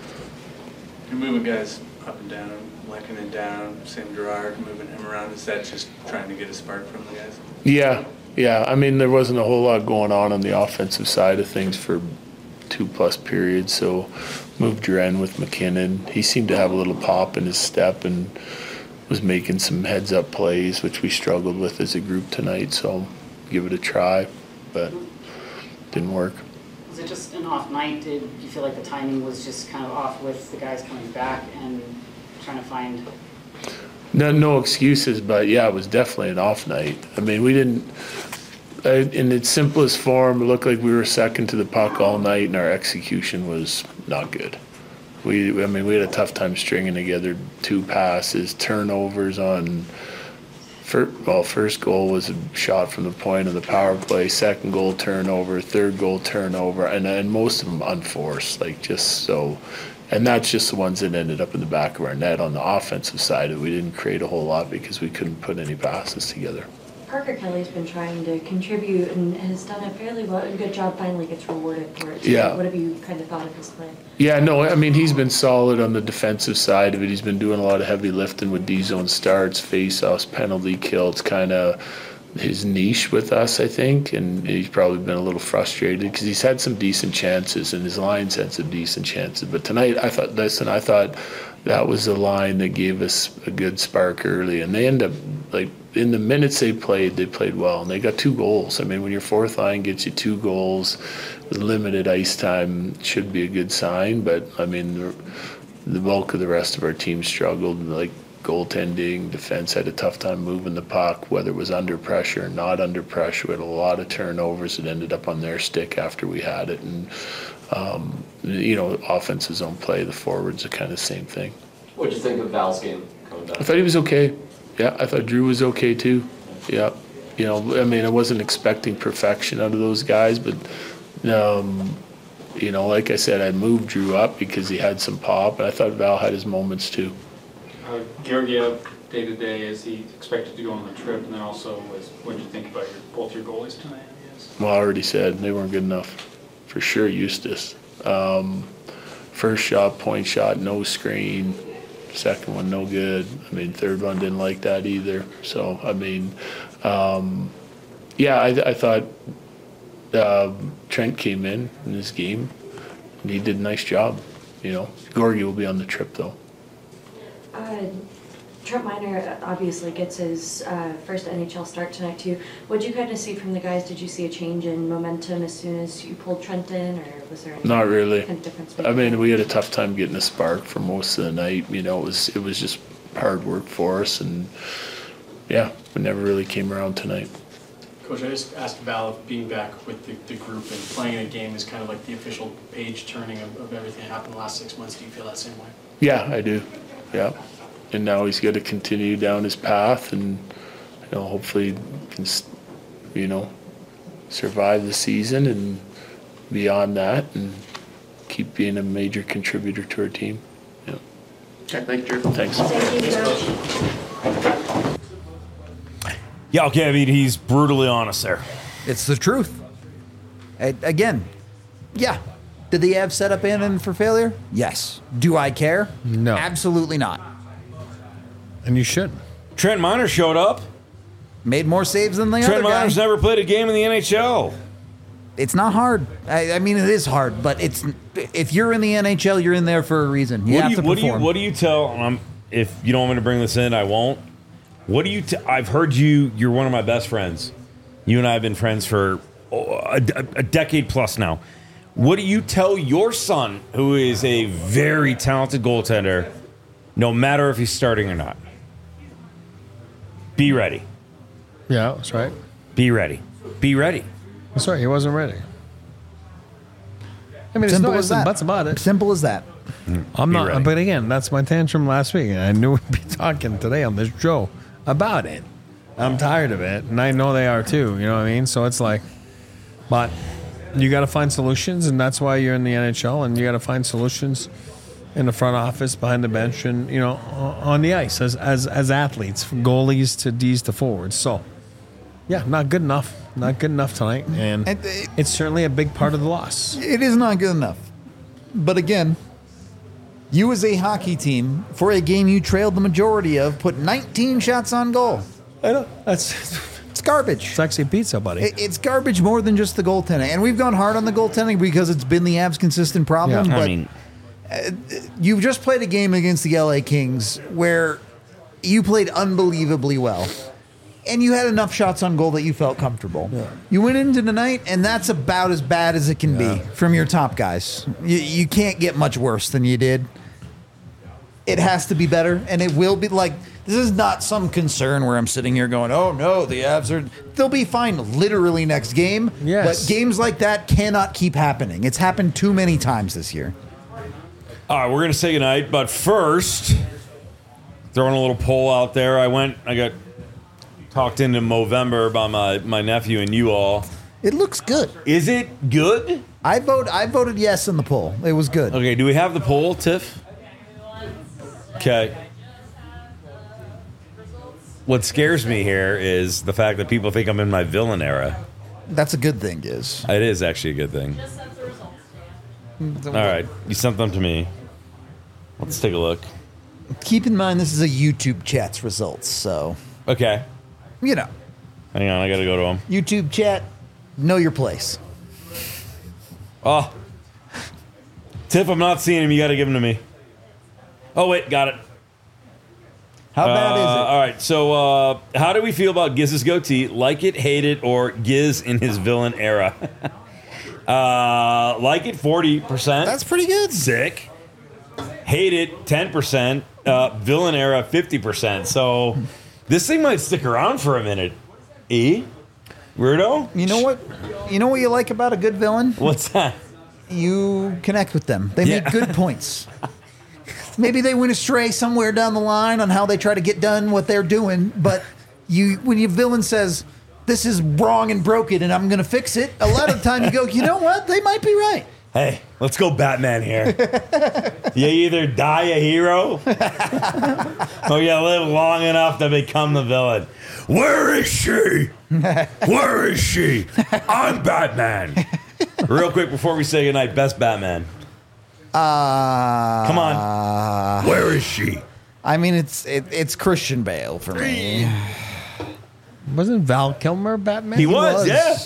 You're moving guys up and down, Lehkonen and down, Sam Girard, moving him around. Is that just trying to get a spark from the guys? Yeah, yeah. I mean, there wasn't a whole lot going on on the offensive side of things for two plus periods. So moved Drouin with McKinnon. He seemed to have a little pop in his step and was making some heads up plays, which we struggled with as a group tonight. So give it a try, but didn't work. Was it just an off night? Did you feel like the timing was just kind of off with the guys coming back and trying to find? No, no excuses, but yeah, it was definitely an off night. I mean, we didn't, uh, in its simplest form, it looked like we were second to the puck all night, and our execution was not good. We, I mean, we had a tough time stringing together two passes, turnovers on. First, well, first goal was a shot from the point of the power play. Second goal turnover, third goal turnover, and and most of them unforced, like just so. And that's just the ones that ended up in the back of our net. On the offensive side, we didn't create a whole lot because we couldn't put any passes together. Parker Kelly's been trying to contribute and has done a fairly well, a good job. Finally gets rewarded for it. So Yeah. What have you kind of thought of his play? Yeah, no, I mean, he's been solid on the defensive side of it. He's been doing a lot of heavy lifting with D-zone starts, face-offs, penalty kill. It's kind of his niche with us, I think, and he's probably been a little frustrated because he's had some decent chances and his line's had some decent chances. But tonight, I thought, listen, I thought that was the line that gave us a good spark early, and they end up, like, in the minutes they played, they played well, and they got two goals. I mean, when your fourth line gets you two goals with limited ice time, it should be a good sign. But I mean, the, the bulk of the rest of our team struggled. Like goaltending, defense had a tough time moving the puck, whether it was under pressure or not under pressure. We had a lot of turnovers that ended up on their stick after we had it. And, um, you know, offense's own play, the forwards are kind of the same thing. What did you think of Val's game coming back? I thought he was okay. Yeah, I thought Drew was okay too. Yeah. You know, I mean, I wasn't expecting perfection out of those guys, but, um, you know, like I said, I moved Drew up because he had some pop, and I thought Val had his moments too. Uh, Georgiev, day to day, is he expected to go on the trip? And then also, was, what did you think about your, both your goalies tonight? I guess. Well, I already said they weren't good enough. For sure, Eustace. Um, first shot, point shot, no screen. Second one, no good. I mean, third one didn't like that either. So, I mean, um, yeah, I, I thought uh, Trent came in in this game, and he did a nice job. You know, Gorgie will be on the trip, though. Uh, Trent Miner obviously gets his uh, first N H L start tonight too. What did you kind of see from the guys? Did you see a change in momentum as soon as you pulled Trent in, or was there any Not really. kind of difference? I mean, we had a tough time getting a spark for most of the night. You know, it was it was just hard work for us, and yeah, we never really came around tonight. Coach, I just asked Val if being back with the, the group and playing a game is kind of like the official page turning of, of everything that happened the last six months. Do you feel that same way? Yeah, I do. Yeah. And now he's got to continue down his path, and you know, hopefully can, you know, survive the season and beyond that, and keep being a major contributor to our team. Yeah. Okay, thank you, Drew. Thanks. Yeah, okay, I mean, he's brutally honest there. It's the truth. A- Again, yeah. Did the Avs set up Annan for failure? Yes. Do I care? No. Absolutely not. And you shouldn't. Trent Miner showed up. Made more saves than the Trent other guy. Miner's never played a game in the N H L. It's not hard. I, I mean, it is hard, but it's if you're in the N H L, you're in there for a reason. You what have do you, to what do you perform. what do you tell? Um, if you don't want me to bring this in, I won't. What do you? T- I've heard you. You're one of my best friends. You and I have been friends for oh, a, a decade plus now. What do you tell your son, who is a very talented goaltender, no matter if he's starting or not? Be ready. Yeah, that's right. Be ready. Be ready. That's right. He wasn't ready. I mean, Simple there's no as ifs and that. buts about it. Simple as that. I'm Be not. ready. But again, that's my tantrum last week, and I knew we'd be talking today on this show about it. I'm tired of it, and I know they are too. You know what I mean? So it's like, but you got to find solutions, and that's why you're in the N H L, and you got to find solutions in the front office, behind the bench, and you know, on the ice as as as athletes, from goalies to D's to forwards. So, yeah, not good enough. Not good enough tonight, and And it- it's certainly a big part of the loss. It is not good enough. But again, you as a hockey team, for a game you trailed the majority of, put nineteen shots on goal. I know. That's it's garbage. It's actually pizza, buddy. It- It's garbage more than just the goaltending. And we've gone hard on the goaltending because it's been the Avs' consistent problem. Yeah. But I mean, you've just played a game against the L A Kings where you played unbelievably well. And you had enough shots on goal that you felt comfortable. Yeah. You went into the night, and that's about as bad as it can Yeah. be from your top guys. You, you can't get much worse than you did. It has to be better, and it will be. Like, this is not some concern where I'm sitting here going, oh, no, the Avs are... They'll be fine literally next game. Yes. But games like that cannot keep happening. It's happened too many times this year. all right, we're gonna say goodnight, but first, throwing a little poll out there. I went. I got talked into Movember by my my nephew and you all. It looks good. Is it good? I vote. I voted yes in the poll. It was good. Okay, do we have the poll, Tiff? Okay. What scares me here is the fact that people think I'm in my villain era. That's a good thing, Giz. It is actually a good thing. All right, you sent them to me. Let's take a look. Keep in mind, this is a YouTube chat's results, so Okay. you know, Hang on, I gotta go to them. YouTube chat, know your place. Oh. Tiff, I'm not seeing him. You gotta give him to me. Oh, wait, got it. How bad Uh, is it? All right, so uh, how do we feel about Giz's goatee? Like it, hate it, or Giz in his villain era? uh, like it, forty percent. That's pretty good. Sick. Hate it, ten percent. Uh, villain era fifty percent. So this thing might stick around for a minute. E? Weirdo? You know what? You know what you like about a good villain? What's that? You connect with them. They Yeah. make good points. Maybe they went astray somewhere down the line on how they try to get done what they're doing, but you, when your villain says, this is wrong and broken and I'm going to fix it, a lot of the time you go, you know what? They might be right. Hey, let's go Batman here. You either die a hero or you live long enough to become the villain. Where is she? Where is she? I'm Batman. Real quick before we say goodnight, best Batman. Uh, Come on. Where is she? I mean, it's it, it's Christian Bale for me. Wasn't Val Kilmer Batman? He was, yeah.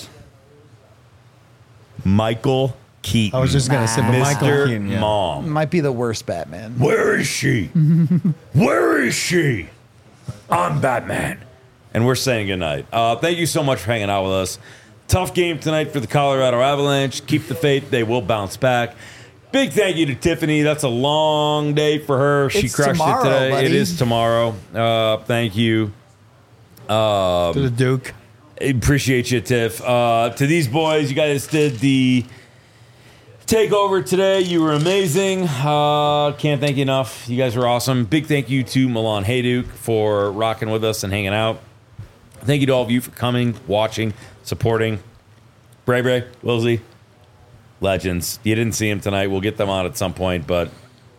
Michael Keaton. I was just gonna say, but Michael Mister Keaton, yeah. Mom. Might be the worst Batman. Where is she? Where is she? I'm Batman. And we're saying goodnight. Uh, thank you so much for hanging out with us. Tough game tonight for the Colorado Avalanche. Keep the faith. They will bounce back. Big thank you to Tiffany. That's a long day for her. She It's crushed tomorrow, it today. buddy. It is tomorrow. Uh, thank you. Um, To the Duke. Appreciate you, Tiff. Uh, to these boys, you guys did the takeover today. You were amazing. Uh, can't thank you enough. You guys were awesome. Big thank you to Milan Hayduk for rocking with us and hanging out. Thank you to all of you for coming, watching, supporting. Bray Bray, Wilsey, legends. You didn't see him tonight. We'll get them on at some point, but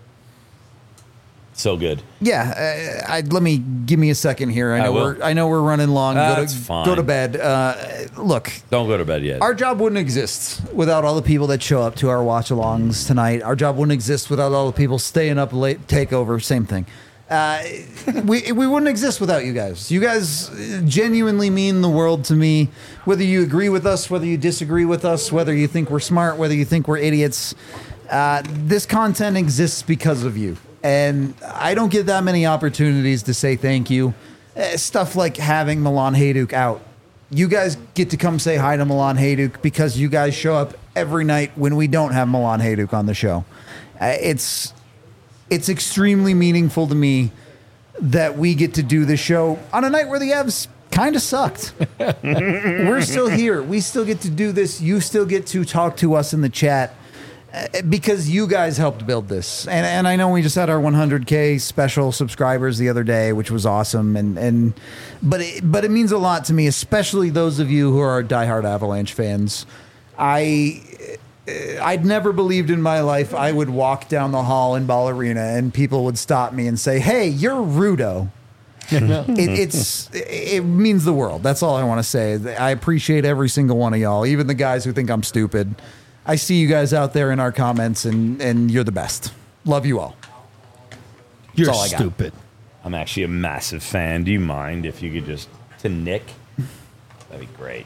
so good. Yeah, uh, I, let me give me a second here. I I know will. we're I know we're running long. Go That's to fine. go to bed. Uh, look, Don't go to bed yet. our job wouldn't exist without all the people that show up to our watch-alongs tonight. Our job wouldn't exist without all the people staying up late. Takeover, same thing. Uh, we we wouldn't exist without you guys. You guys genuinely mean the world to me. Whether you agree with us, whether you disagree with us, whether you think we're smart, whether you think we're idiots, uh, this content exists because of you. And I don't get that many opportunities to say thank you. Uh, stuff like having Milan Hayduk out. You guys get to come say hi to Milan Hayduk because you guys show up every night when we don't have Milan Hayduk on the show. Uh, it's it's extremely meaningful to me that we get to do the show on a night where the Avs kind of sucked. We're still here. We still get to do this. You still get to talk to us in the chat. Uh, because you guys helped build this, and and I know we just had our one hundred K special subscribers the other day, which was awesome, and and but it, but it means a lot to me, especially those of you who are diehard Avalanche fans. I I'd never believed in my life I would walk down the hall in Ball Arena and people would stop me and say, "Hey, you're Rudo." it, it's it means the world. That's all I want to say. I appreciate every single one of y'all, even the guys who think I'm stupid. I see you guys out there in our comments, and, and you're the best. Love you all. You're That's all I got. stupid. I'm actually a massive fan. Do you mind if you could just to Nick? That'd be great.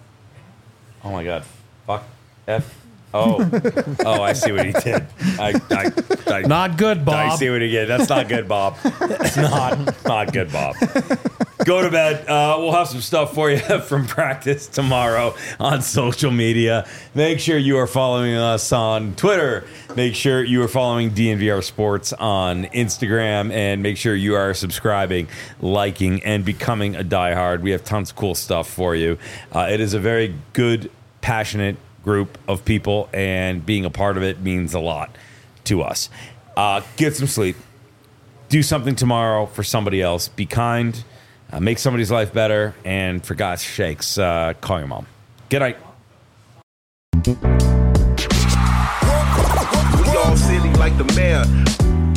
Oh my God! Fuck F. Oh, oh! I see what he did. I, I, I, Not good, Bob. I see what he did. That's not good, Bob. It's not not good, Bob. Go to bed. Uh, we'll have some stuff for you from practice tomorrow on social media. Make sure you are following us on Twitter. Make sure you are following D N V R Sports on Instagram. And make sure you are subscribing, liking, and becoming a diehard. We have tons of cool stuff for you. Uh, it is a very good, passionate group of people, and being a part of it means a lot to us. Uh, get some sleep. Do something tomorrow for somebody else. Be kind. Uh, make somebody's life better, and for God's sakes, uh, call your mom. Good night. We all silly like the mayor.